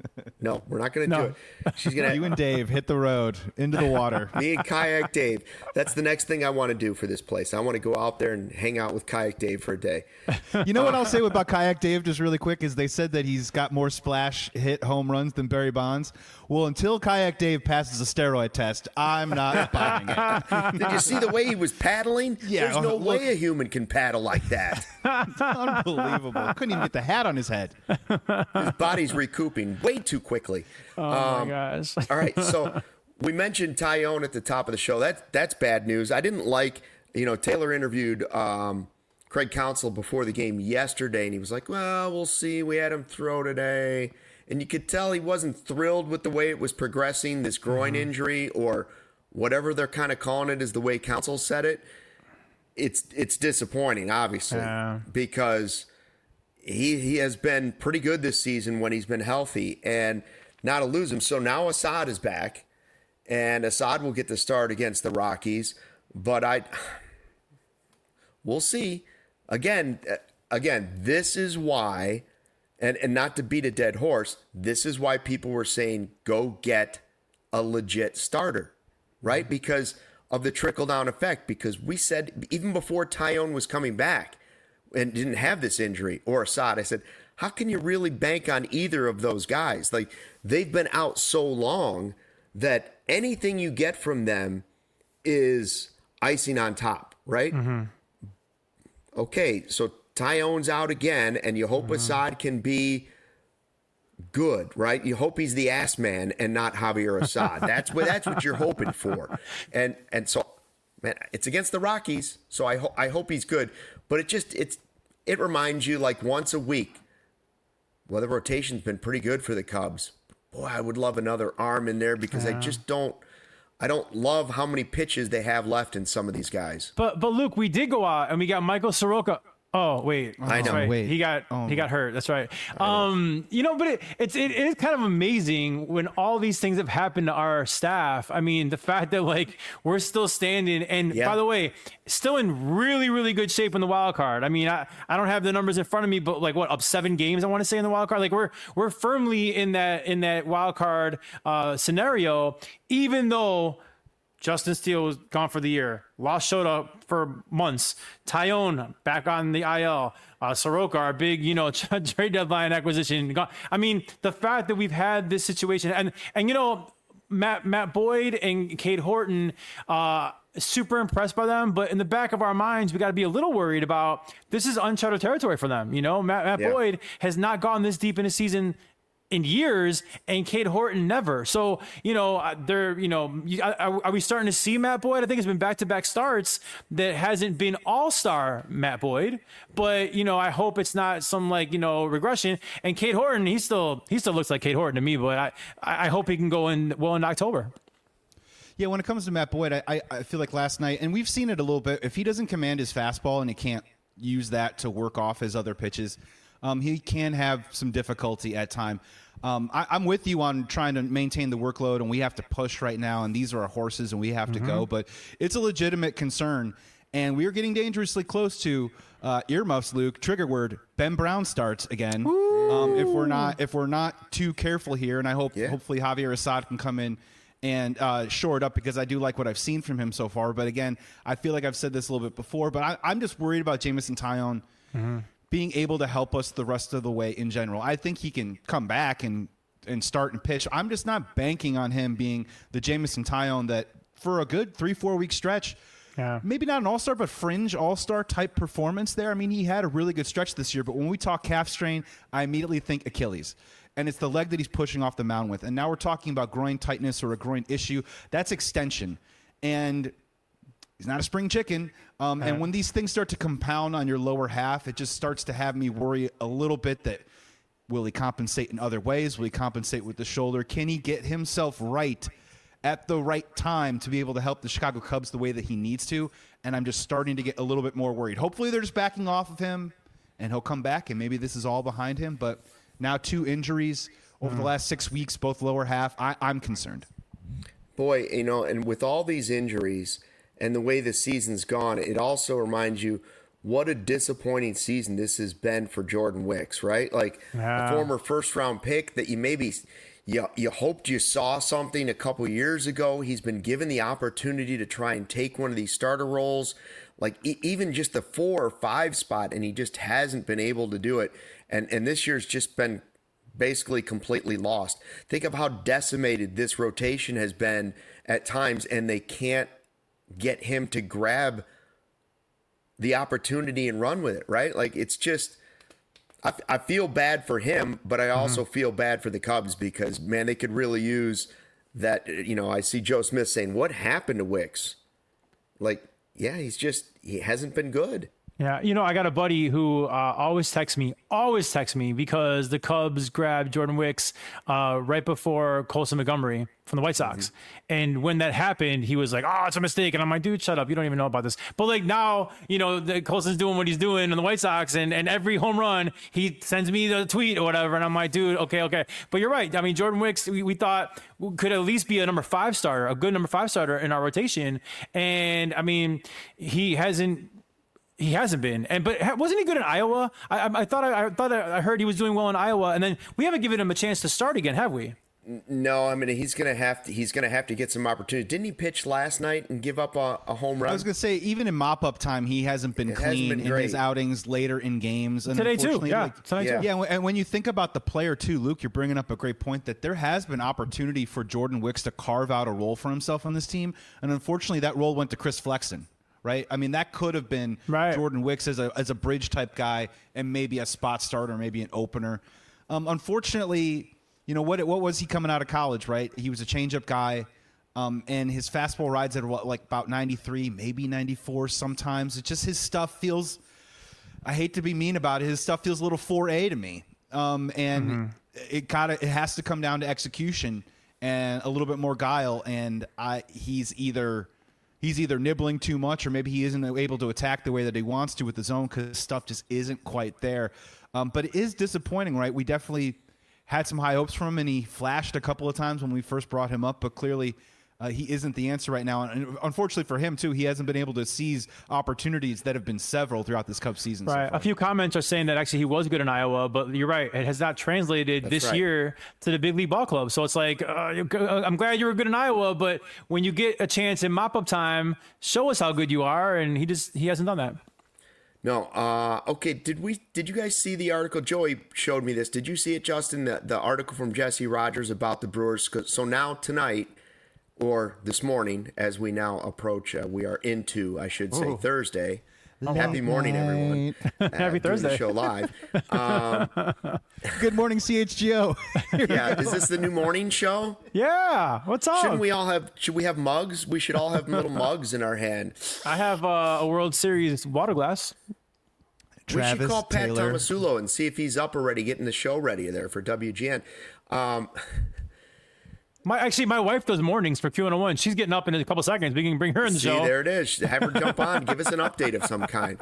S1: No, we're not going to do it. She's going to.
S3: You and Dave hit the road into the water.
S1: Me and Kayak Dave. That's the next thing I want to do for this place. I want to go out there and hang out with Kayak Dave for a day.
S3: You know what I'll say about Kayak Dave just really quick is they said that he's got more splash hit home runs than Barry Bonds. Well, until Kayak Dave passes a steroid test, I'm not buying it.
S1: Did you see the way he was paddling?
S3: Yeah,
S1: there's no way a human can paddle like that.
S3: Unbelievable. Couldn't even get the hat on his head.
S1: His body's recouping way too quickly.
S2: Oh, my gosh.
S1: All right, so we mentioned Taillon at the top of the show. That's bad news. I didn't like, Taylor interviewed Craig Counsell before the game yesterday, and he was like, well, we'll see. We had him throw today. And you could tell he wasn't thrilled with the way it was progressing, this groin injury, or whatever they're kind of calling it is the way Counsell said it. It's disappointing, obviously, because he has been pretty good this season when he's been healthy, and now to lose him. So now Assad is back, and Assad will get the start against the Rockies, but we'll see. Again, this is why, and not to beat a dead horse, this is why people were saying go get a legit starter, right? Because of the trickle-down effect, because we said even before Taillon was coming back and didn't have this injury, or Assad, I said, how can you really bank on either of those guys? Like, they've been out so long that anything you get from them is icing on top, right? Okay, so Taillon's out again, and you hope Assad can be good, right? You hope he's the ass man and not Javier Assad. That's what you're hoping for. And so, man, it's against the Rockies, so I hope he's good. But it reminds you, like, once a week. Well, the rotation's been pretty good for the Cubs. Boy, I would love another arm in there because I don't love how many pitches they have left in some of these guys.
S2: But Luke, we did go out and we got Michael Soroka. Oh, wait.
S1: I know.
S2: Right.
S3: Wait.
S2: He got hurt. That's right. But it is kind of amazing when all these things have happened to our staff. I mean, the fact that, like, we're still standing, and by the way, still in really, really good shape in the wild card. I mean, I don't have the numbers in front of me, but like up 7 games, I want to say, in the wild card. Like, we're firmly in that wild card scenario, even though Justin Steele was gone for the year. Lost Shota for months. Taillon back on the IL. Soroka, our big, trade deadline acquisition. Gone. I mean, the fact that we've had this situation, and Matt Boyd and Cade Horton, super impressed by them. But in the back of our minds, we got to be a little worried about this is uncharted territory for them. Matt Boyd has not gone this deep in a season in years, and Cade Horton never. So, are we starting to see Matt Boyd? I think it's been back-to-back starts that hasn't been all-star Matt Boyd, but, I hope it's not some regression. And Cade Horton, he still looks like Cade Horton to me, but I hope he can go in October.
S3: Yeah, when it comes to Matt Boyd, I feel like last night, and we've seen it a little bit, if he doesn't command his fastball and he can't use that to work off his other pitches, he can have some difficulty at time. I'm with you on trying to maintain the workload, and we have to push right now, and these are our horses, and we have to go. But it's a legitimate concern, and we are getting dangerously close to earmuffs, Luke. Trigger word: Ben Brown starts again. If we're not too careful here, and I hope hopefully Javier Assad can come in and shore it up, because I do like what I've seen from him so far. But again, I feel like I've said this a little bit before, but I'm just worried about Jameson Taillon being able to help us the rest of the way in general. I think he can come back and start and pitch. I'm just not banking on him being the Jameson Taillon that for a good 3-4 week stretch, maybe not an all-star, but fringe all-star type performance there. I mean, he had a really good stretch this year, but when we talk calf strain, I immediately think Achilles. And it's the leg that he's pushing off the mound with. And now we're talking about groin tightness or a groin issue. That's extension. And he's not a spring chicken. And when these things start to compound on your lower half, it just starts to have me worry a little bit that will he compensate in other ways? Will he compensate with the shoulder? Can he get himself right at the right time to be able to help the Chicago Cubs the way that he needs to? And I'm just starting to get a little bit more worried. Hopefully they're just backing off of him and he'll come back and maybe this is all behind him. But now 2 injuries over the last 6 weeks, both lower half, I'm concerned.
S1: Boy, and with all these injuries and the way the season's gone, it also reminds you what a disappointing season this has been for Jordan Wicks, right? Like a former first-round pick that you hoped you saw something a couple years ago. He's been given the opportunity to try and take one of these starter roles, like even just the 4 or 5 spot, and he just hasn't been able to do it. And this year's just been basically completely lost. Think of how decimated this rotation has been at times, and they can't get him to grab the opportunity and run with it, right? Like, it's just, I feel bad for him, but I also feel bad for the Cubs because, man, they could really use that. I see Joe Smith saying, what happened to Wicks? Like, yeah, he hasn't been good.
S2: Yeah, I got a buddy who always texts me because the Cubs grabbed Jordan Wicks right before Colson Montgomery from the White Sox. And when that happened, he was like, "Oh, it's a mistake." And I'm like, "Dude, shut up. You don't even know about this." But like now, the Colson's doing what he's doing in the White Sox, and every home run, he sends me the tweet or whatever. And I'm like, "Dude, okay." But you're right. I mean, Jordan Wicks, we thought could at least be a number 5 starter, a good number 5 starter in our rotation. And I mean, he hasn't been, but wasn't he good in Iowa? I thought I heard he was doing well in Iowa, and then we haven't given him a chance to start again, have we?
S1: No, I mean he's gonna have to get some opportunity. Didn't he pitch last night and give up a home run?
S3: I was gonna say even in mop-up time, he hasn't been clean in his outings later in games. And
S2: today too, yeah.
S3: And when you think about the player too, Luke, you're bringing up a great point that there has been opportunity for Jordan Wicks to carve out a role for himself on this team, and unfortunately that role went to Chris Flexen. Right. I mean, that could have been Jordan Wicks as a bridge type guy and maybe a spot starter, maybe an opener. Unfortunately, what was he coming out of college? Right. He was a changeup guy. And his fastball rides at about 93, maybe 94 sometimes. It's just his stuff feels, I hate to be mean about it, his stuff feels a little 4A to me. It has to come down to execution and a little bit more guile. And he's either nibbling too much, or maybe he isn't able to attack the way that he wants to with his own because stuff just isn't quite there. But it is disappointing, right? We definitely had some high hopes from him, and he flashed a couple of times when we first brought him up, but clearly he isn't the answer right now. And unfortunately for him, too, he hasn't been able to seize opportunities that have been several throughout this Cubs season.
S2: Right.
S3: So far.
S2: A few comments are saying that actually he was good in Iowa, but you're right. It has not translated this year to the big league ball club. So it's like, I'm glad you were good in Iowa, but when you get a chance in mop-up time, show us how good you are. And he hasn't done that.
S1: No. Okay. Did you guys see the article? Joey showed me this. Did you see it, Justin? The article from Jesse Rogers about the Brewers. So now tonight, or this morning, as we now approach, we are into, I should say, Thursday. Happy morning, everyone.
S2: Happy Thursday.
S1: The show live.
S3: Good morning, CHGO.
S1: Yeah, is this the new morning show?
S2: Yeah, what's up?
S1: Should we have mugs? We should all have little mugs in our hand.
S2: I have a World Series water glass.
S1: We should call Pat Tomasulo and see if he's up already, getting the show ready there for WGN.
S2: My wife does mornings for Q101. She's getting up in a couple seconds. We can bring her in the show.
S1: See, there it is. Have her jump on. Give us an update of some kind.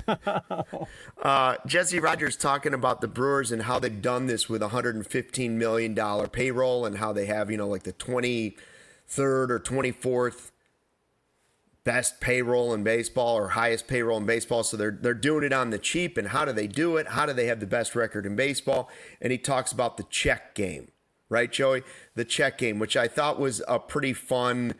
S1: Jesse Rogers talking about the Brewers and how they've done this with $115 million payroll and how they have, like the 23rd or 24th best payroll in baseball or highest payroll in baseball. So they're doing it on the cheap. And how do they do it? How do they have the best record in baseball? And he talks about the check game. Right, Joey? The check game, which I thought was a pretty fun.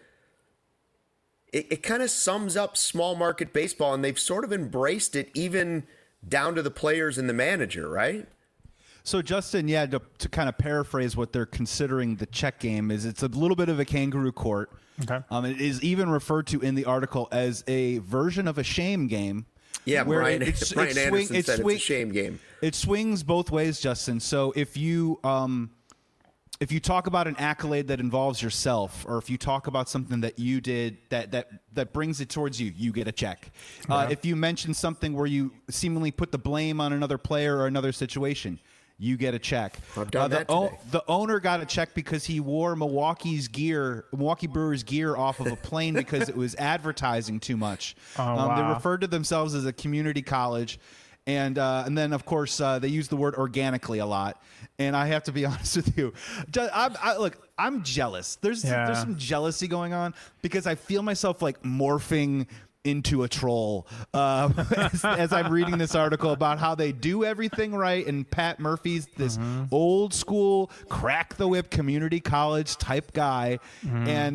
S1: It kind of sums up small market baseball, and they've sort of embraced it even down to the players and the manager, right?
S3: So, Justin, to kind of paraphrase what they're considering the check game is it's a little bit of a kangaroo court.
S2: Okay.
S3: It is even referred to in the article as a version of a shame game.
S1: Yeah, Brian Anderson said it's a shame game.
S3: It swings both ways, Justin. So if you talk about an accolade that involves yourself, or if you talk about something that you did that brings it towards you, you get a check. If you mention something where you seemingly put the blame on another player or another situation, you get a check.
S1: I've done that today.
S3: The owner got a check because he wore Milwaukee Brewers gear off of a plane because it was advertising too much.
S2: Wow.
S3: They referred to themselves as a community college. And then, of course, they use the word organically a lot. And I have to be honest with you. I'm jealous. There's some jealousy going on because I feel myself like morphing into a troll as I'm reading this article about how they do everything right. And Pat Murphy's this old school crack the whip community college type guy. And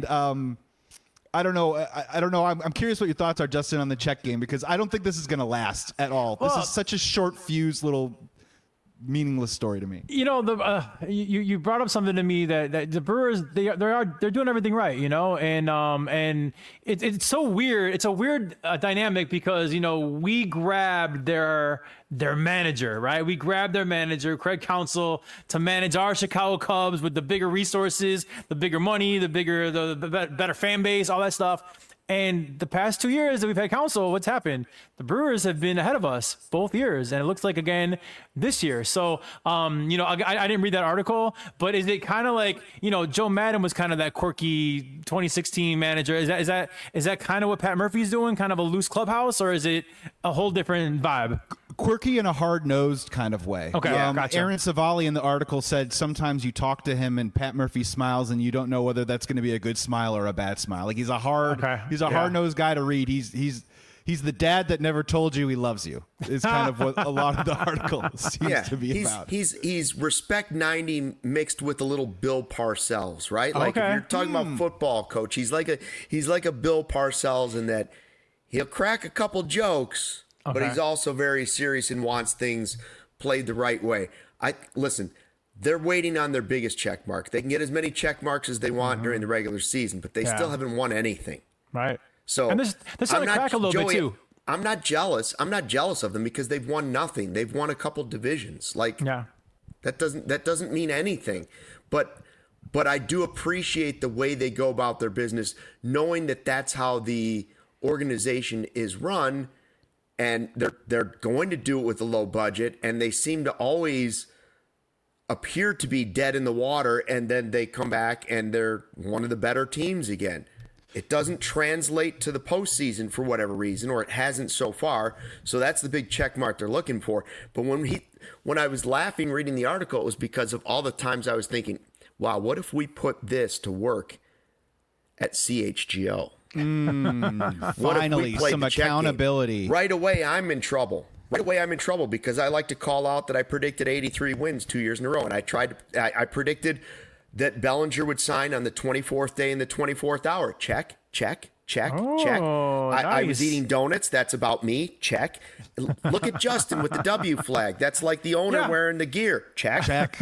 S3: I don't know. I don't know. I'm curious what your thoughts are, Justin, on the check game, because I don't think this is going to last at all. This is such a short fuse little meaningless story to me.
S2: You brought up something to me that the Brewers they're doing everything right, and it's so weird. It's a weird dynamic because we grabbed their manager, right? We grabbed their manager, Craig Counsell, to manage our Chicago Cubs with the bigger resources, the bigger money, the better fan base, all that stuff. And the past 2 years that we've had Counsell, what's happened? The Brewers have been ahead of us both years, and it looks like again this year. So, you know, I didn't read that article, but is it kind of like, you know, Joe Madden was kind of that quirky 2016 manager? Is that kind of what Pat Murphy's doing? Kind of a loose clubhouse, or is it a whole different vibe?
S3: Quirky in a hard-nosed kind of way.
S2: Okay, gotcha.
S3: Aaron Savali in the article said sometimes you talk to him and Pat Murphy smiles and you don't know whether that's going to be a good smile or a bad smile. Like he's a hard-nosed guy to read. He's the dad that never told you he loves you. Is kind of what a lot of the article seems to be about.
S1: He's respect 90 mixed with a little Bill Parcells, right? Like if you're talking about football coach, he's like a Bill Parcells in that he'll crack a couple jokes. But he's also very serious and wants things played the right way. Listen, they're waiting on their biggest check mark. They can get as many check marks as they want during the regular season, but they still haven't won anything.
S2: Right.
S1: So
S2: and this starting to crack a little bit too.
S1: I'm not jealous. I'm not jealous of them because they've won nothing. They've won a couple divisions. Like that doesn't mean anything. But I do appreciate the way they go about their business, knowing that that's how the organization is run. And they're going to do it with a low budget, and they seem to always appear to be dead in the water, and then they come back and they're one of the better teams again. It doesn't translate to the postseason for whatever reason, or it hasn't so far. So that's the big check mark they're looking for. But when I was laughing reading the article, it was because of all the times I was thinking, wow, what if we put this to work at CHGO?
S3: Finally, some accountability.
S1: Right away, I'm in trouble. Because I like to call out that I predicted 83 wins 2 years in a row. And I predicted that Bellinger would sign on the 24th day in the 24th hour. Check. I was eating donuts. That's about me. Check. Look at Justin with the W flag. That's like the owner wearing the gear. Check.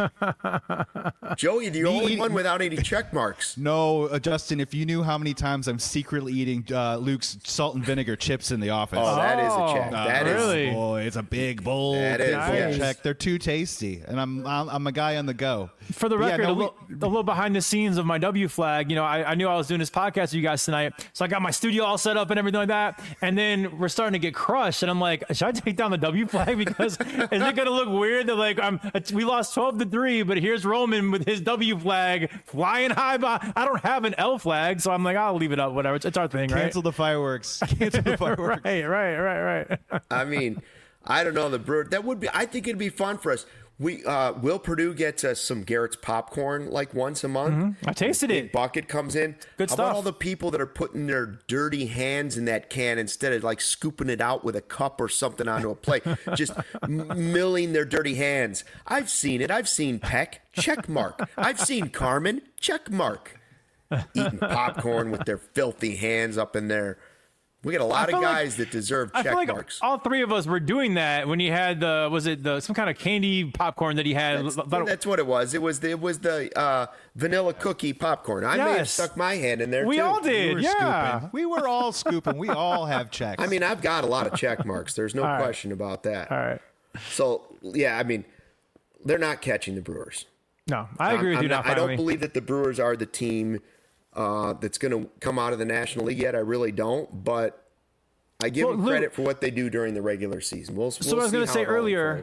S1: Joey, the only one without any check marks.
S3: No, Justin, if you knew how many times I'm secretly eating Luke's salt and vinegar chips in the office.
S1: Oh, that is a check. That
S2: really?
S1: is.
S3: Boy, it's a big bowl.
S1: That is
S3: a check. They're too tasty, and I'm a guy on the go.
S2: For the record, a little behind the scenes of my W flag. You know, I knew I was doing this podcast with you guys tonight, so I got my studio all set up and everything like that. And then we're starting to get crushed, and I'm like, should I take down the W flag because is it going to look weird that like we lost 12-3, but here's Roman with his W flag flying high. I don't have an L flag, so I'm like, I'll leave it up. Whatever, it's our thing, right?
S3: Cancel the fireworks. Cancel the fireworks.
S2: Right.
S1: I mean, I don't know the Brewer. That would be. I think it'd be fun for us. Will Purdue gets some Garrett's popcorn like once a month.
S2: I tasted it.
S1: Bucket comes in.
S2: Good
S1: How
S2: stuff.
S1: about all the people that are putting their dirty hands in that can instead of like scooping it out with a cup or something onto a plate, just milling their dirty hands. I've seen it. I've seen Peck, check mark. I've seen Carmen, check mark. Eating popcorn with their filthy hands up in there. We got a lot of guys that deserve check marks.
S2: All three of us were doing that when he had some kind of candy popcorn that he had.
S1: That's what it was. It was the vanilla cookie popcorn. I may have stuck my hand in there.
S2: We
S1: too.
S2: all did.
S3: Scooping. We were all scooping. We all have checks.
S1: I mean, I've got a lot of check marks. There's no question about that.
S2: All right.
S1: So yeah, I mean, they're not catching the Brewers.
S2: No, I agree with you.
S1: I don't believe that the Brewers are the team that's going to come out of the National League yet. I really don't, but I give them credit for what they do during the regular season. We'll
S2: so I was going to say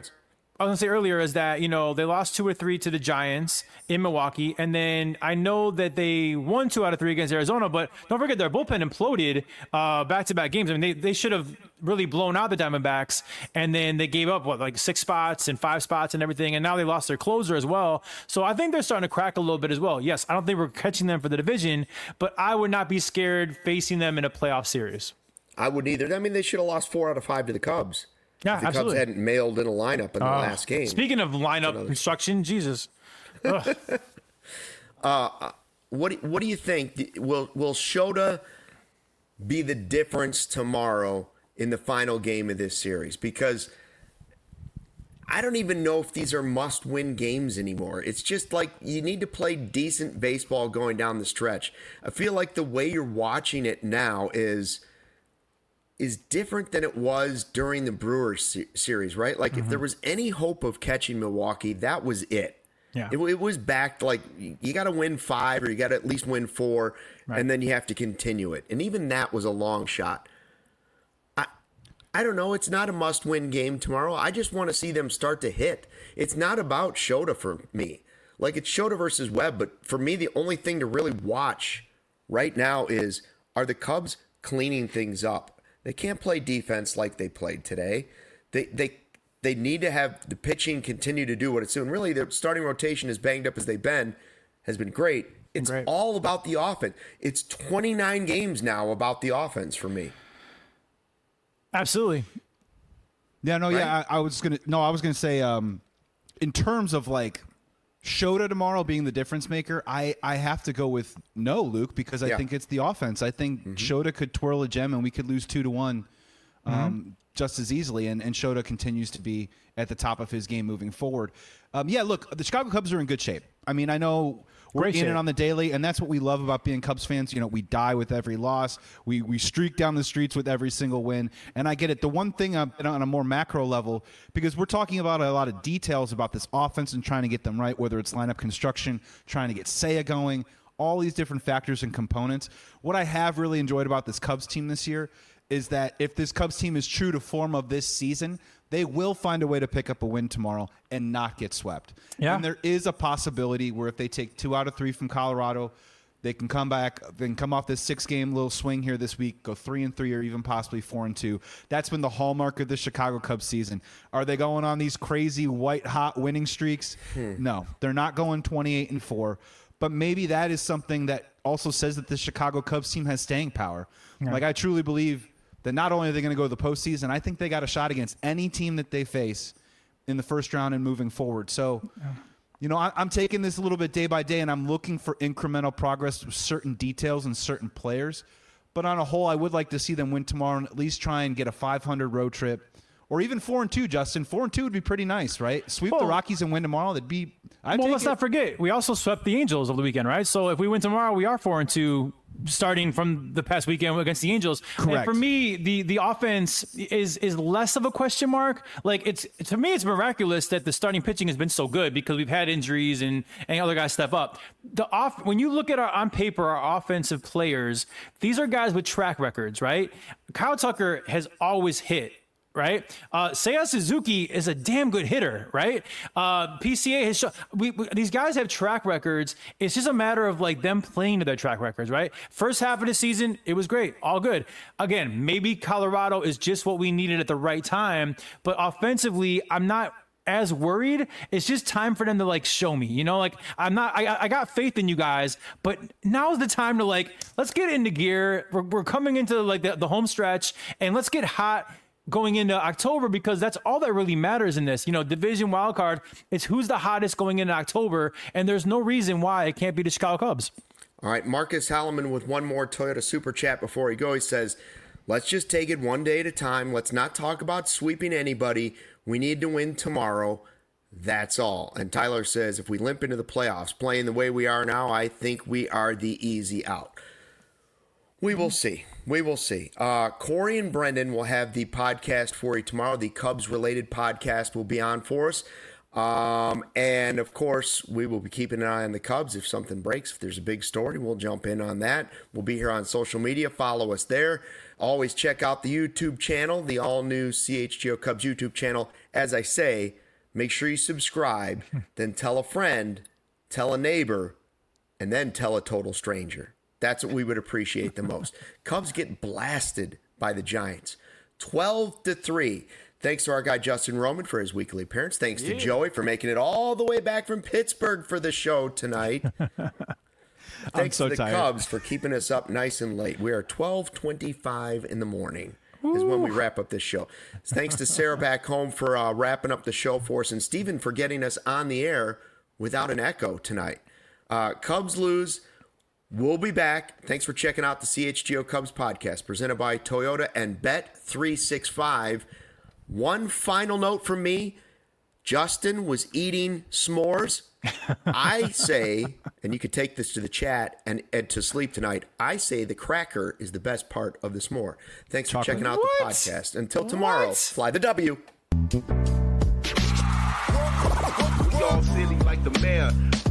S2: earlier is that, you know, they lost 2 or 3 to the Giants in Milwaukee, and then I know that they won 2 out of 3 against Arizona, but don't forget their bullpen imploded back-to-back games. I mean, they should have really blown out the Diamondbacks, and then they gave up, 6 spots and 5 spots and everything, and now they lost their closer as well. So I think they're starting to crack a little bit as well. Yes, I don't think we're catching them for the division, but I would not be scared facing them in a playoff series.
S1: I wouldn't either. I mean, they should have lost 4 out of 5 to the Cubs.
S2: Yeah,
S1: if the
S2: absolutely.
S1: Cubs hadn't mailed in a lineup in the last game.
S2: Speaking of lineup construction, Jesus.
S1: What do you think? Will Shota be the difference tomorrow in the final game of this series? Because I don't even know if these are must-win games anymore. It's just like you need to play decent baseball going down the stretch. I feel like the way you're watching it now is different than it was during the Brewers series, right? Like if there was any hope of catching Milwaukee, that was it.
S2: Yeah.
S1: It was backed like you got to win 5 or you got to at least win 4, and then you have to continue it. And even that was a long shot. I don't know. It's not a must-win game tomorrow. I just want to see them start to hit. It's not about Shota for me. Like, it's Shota versus Webb, but for me, the only thing to really watch right now is, are the Cubs cleaning things up? They can't play defense like they played today. They need to have the pitching continue to do what it's doing. Really, their starting rotation, as banged up as they've been, has been great. It's all about the offense. It's 29 games now about the offense for me.
S2: Absolutely.
S3: Yeah, no, right? Yeah, I was gonna say, in terms of like Shota tomorrow being the difference maker, I have to go with no, Luke, because I think it's the offense. I think Shota could twirl a gem and we could lose 2-1 just as easily, and Shota continues to be at the top of his game moving forward. Look, the Chicago Cubs are in good shape. I mean, I know we're in it on the daily, and that's what we love about being Cubs fans. You know, we die with every loss. We streak down the streets with every single win, and I get it. The one thing on a more macro level, because we're talking about a lot of details about this offense and trying to get them right, whether it's lineup construction, trying to get Seiya going, all these different factors and components. What I have really enjoyed about this Cubs team this year is that if this Cubs team is true to form of this season, they will find a way to pick up a win tomorrow and not get swept. Yeah. And there is a possibility where if they take 2 out of 3 from Colorado, they can come back, then come off this 6-game little swing here this week, go 3-3 or even possibly 4-2. That's been the hallmark of the Chicago Cubs season. Are they going on these crazy white-hot winning streaks? No, they're not going 28-4. But maybe that is something that also says that the Chicago Cubs team has staying power. Yeah. Like, I truly believe that not only are they going to go to the postseason, I think they got a shot against any team that they face in the first round and moving forward. So, you know, I'm taking this a little bit day by day, and I'm looking for incremental progress with certain details and certain players. But on a whole, I would like to see them win tomorrow and at least try and get a 500 road trip. Or even 4-2, Justin. 4-2 would be pretty nice, right? Sweep the Rockies and win tomorrow. That'd be.
S2: Let's not forget, we also swept the Angels over the weekend, right? So if we win tomorrow, we are 4-2, starting from the past weekend against the Angels.
S3: Correct.
S2: And for me, the offense is less of a question mark. Like, to me, it's miraculous that the starting pitching has been so good because we've had injuries and other guys step up. When you look at on paper our offensive players, these are guys with track records, right? Kyle Tucker has always hit. Right, Seiya Suzuki is a damn good hitter. Right, PCA has shown these guys have track records. It's just a matter of like them playing to their track records. Right, first half of the season, it was great, all good. Again, maybe Colorado is just what we needed at the right time. But offensively, I'm not as worried. It's just time for them to like show me. You know, like I got faith in you guys, but now's the time to like let's get into gear. We're coming into like the home stretch, and let's get hot going into October, because that's all that really matters in this. You know, division wild card, it's who's the hottest going into October, and there's no reason why it can't be the Chicago Cubs.
S1: All right, Marcus Halleman with one more Toyota Super Chat before he goes. He says, let's just take it one day at a time. Let's not talk about sweeping anybody. We need to win tomorrow. That's all. And Tyler says, if we limp into the playoffs playing the way we are now, I think we are the easy out. We will see. We will see. Corey and Brendan will have the podcast for you tomorrow. The Cubs-related podcast will be on for us. And, of course, we will be keeping an eye on the Cubs. If something breaks, if there's a big story, we'll jump in on that. We'll be here on social media. Follow us there. Always check out the YouTube channel, the all-new CHGO Cubs YouTube channel. As I say, make sure you subscribe, then tell a friend, tell a neighbor, and then tell a total stranger. That's what we would appreciate the most. Cubs get blasted by the Giants, 12-3. Thanks to our guy Justin Roman for his weekly appearance. Thanks to Joey for making it all the way back from Pittsburgh for the show tonight. Thanks to the Cubs for keeping us up nice and late. We are 12:25 in the morning is when we wrap up this show. Thanks to Sarah back home for wrapping up the show for us, and Steven for getting us on the air without an echo tonight. Cubs lose. We'll be back. Thanks for checking out the CHGO Cubs podcast presented by Toyota and Bet365. One final note from me. Justin was eating s'mores. I say, and you could take this to the chat and to sleep tonight, I say the cracker is the best part of the s'more. Thanks for checking out the podcast. Until tomorrow, fly the W.
S4: We all silly like the mayor.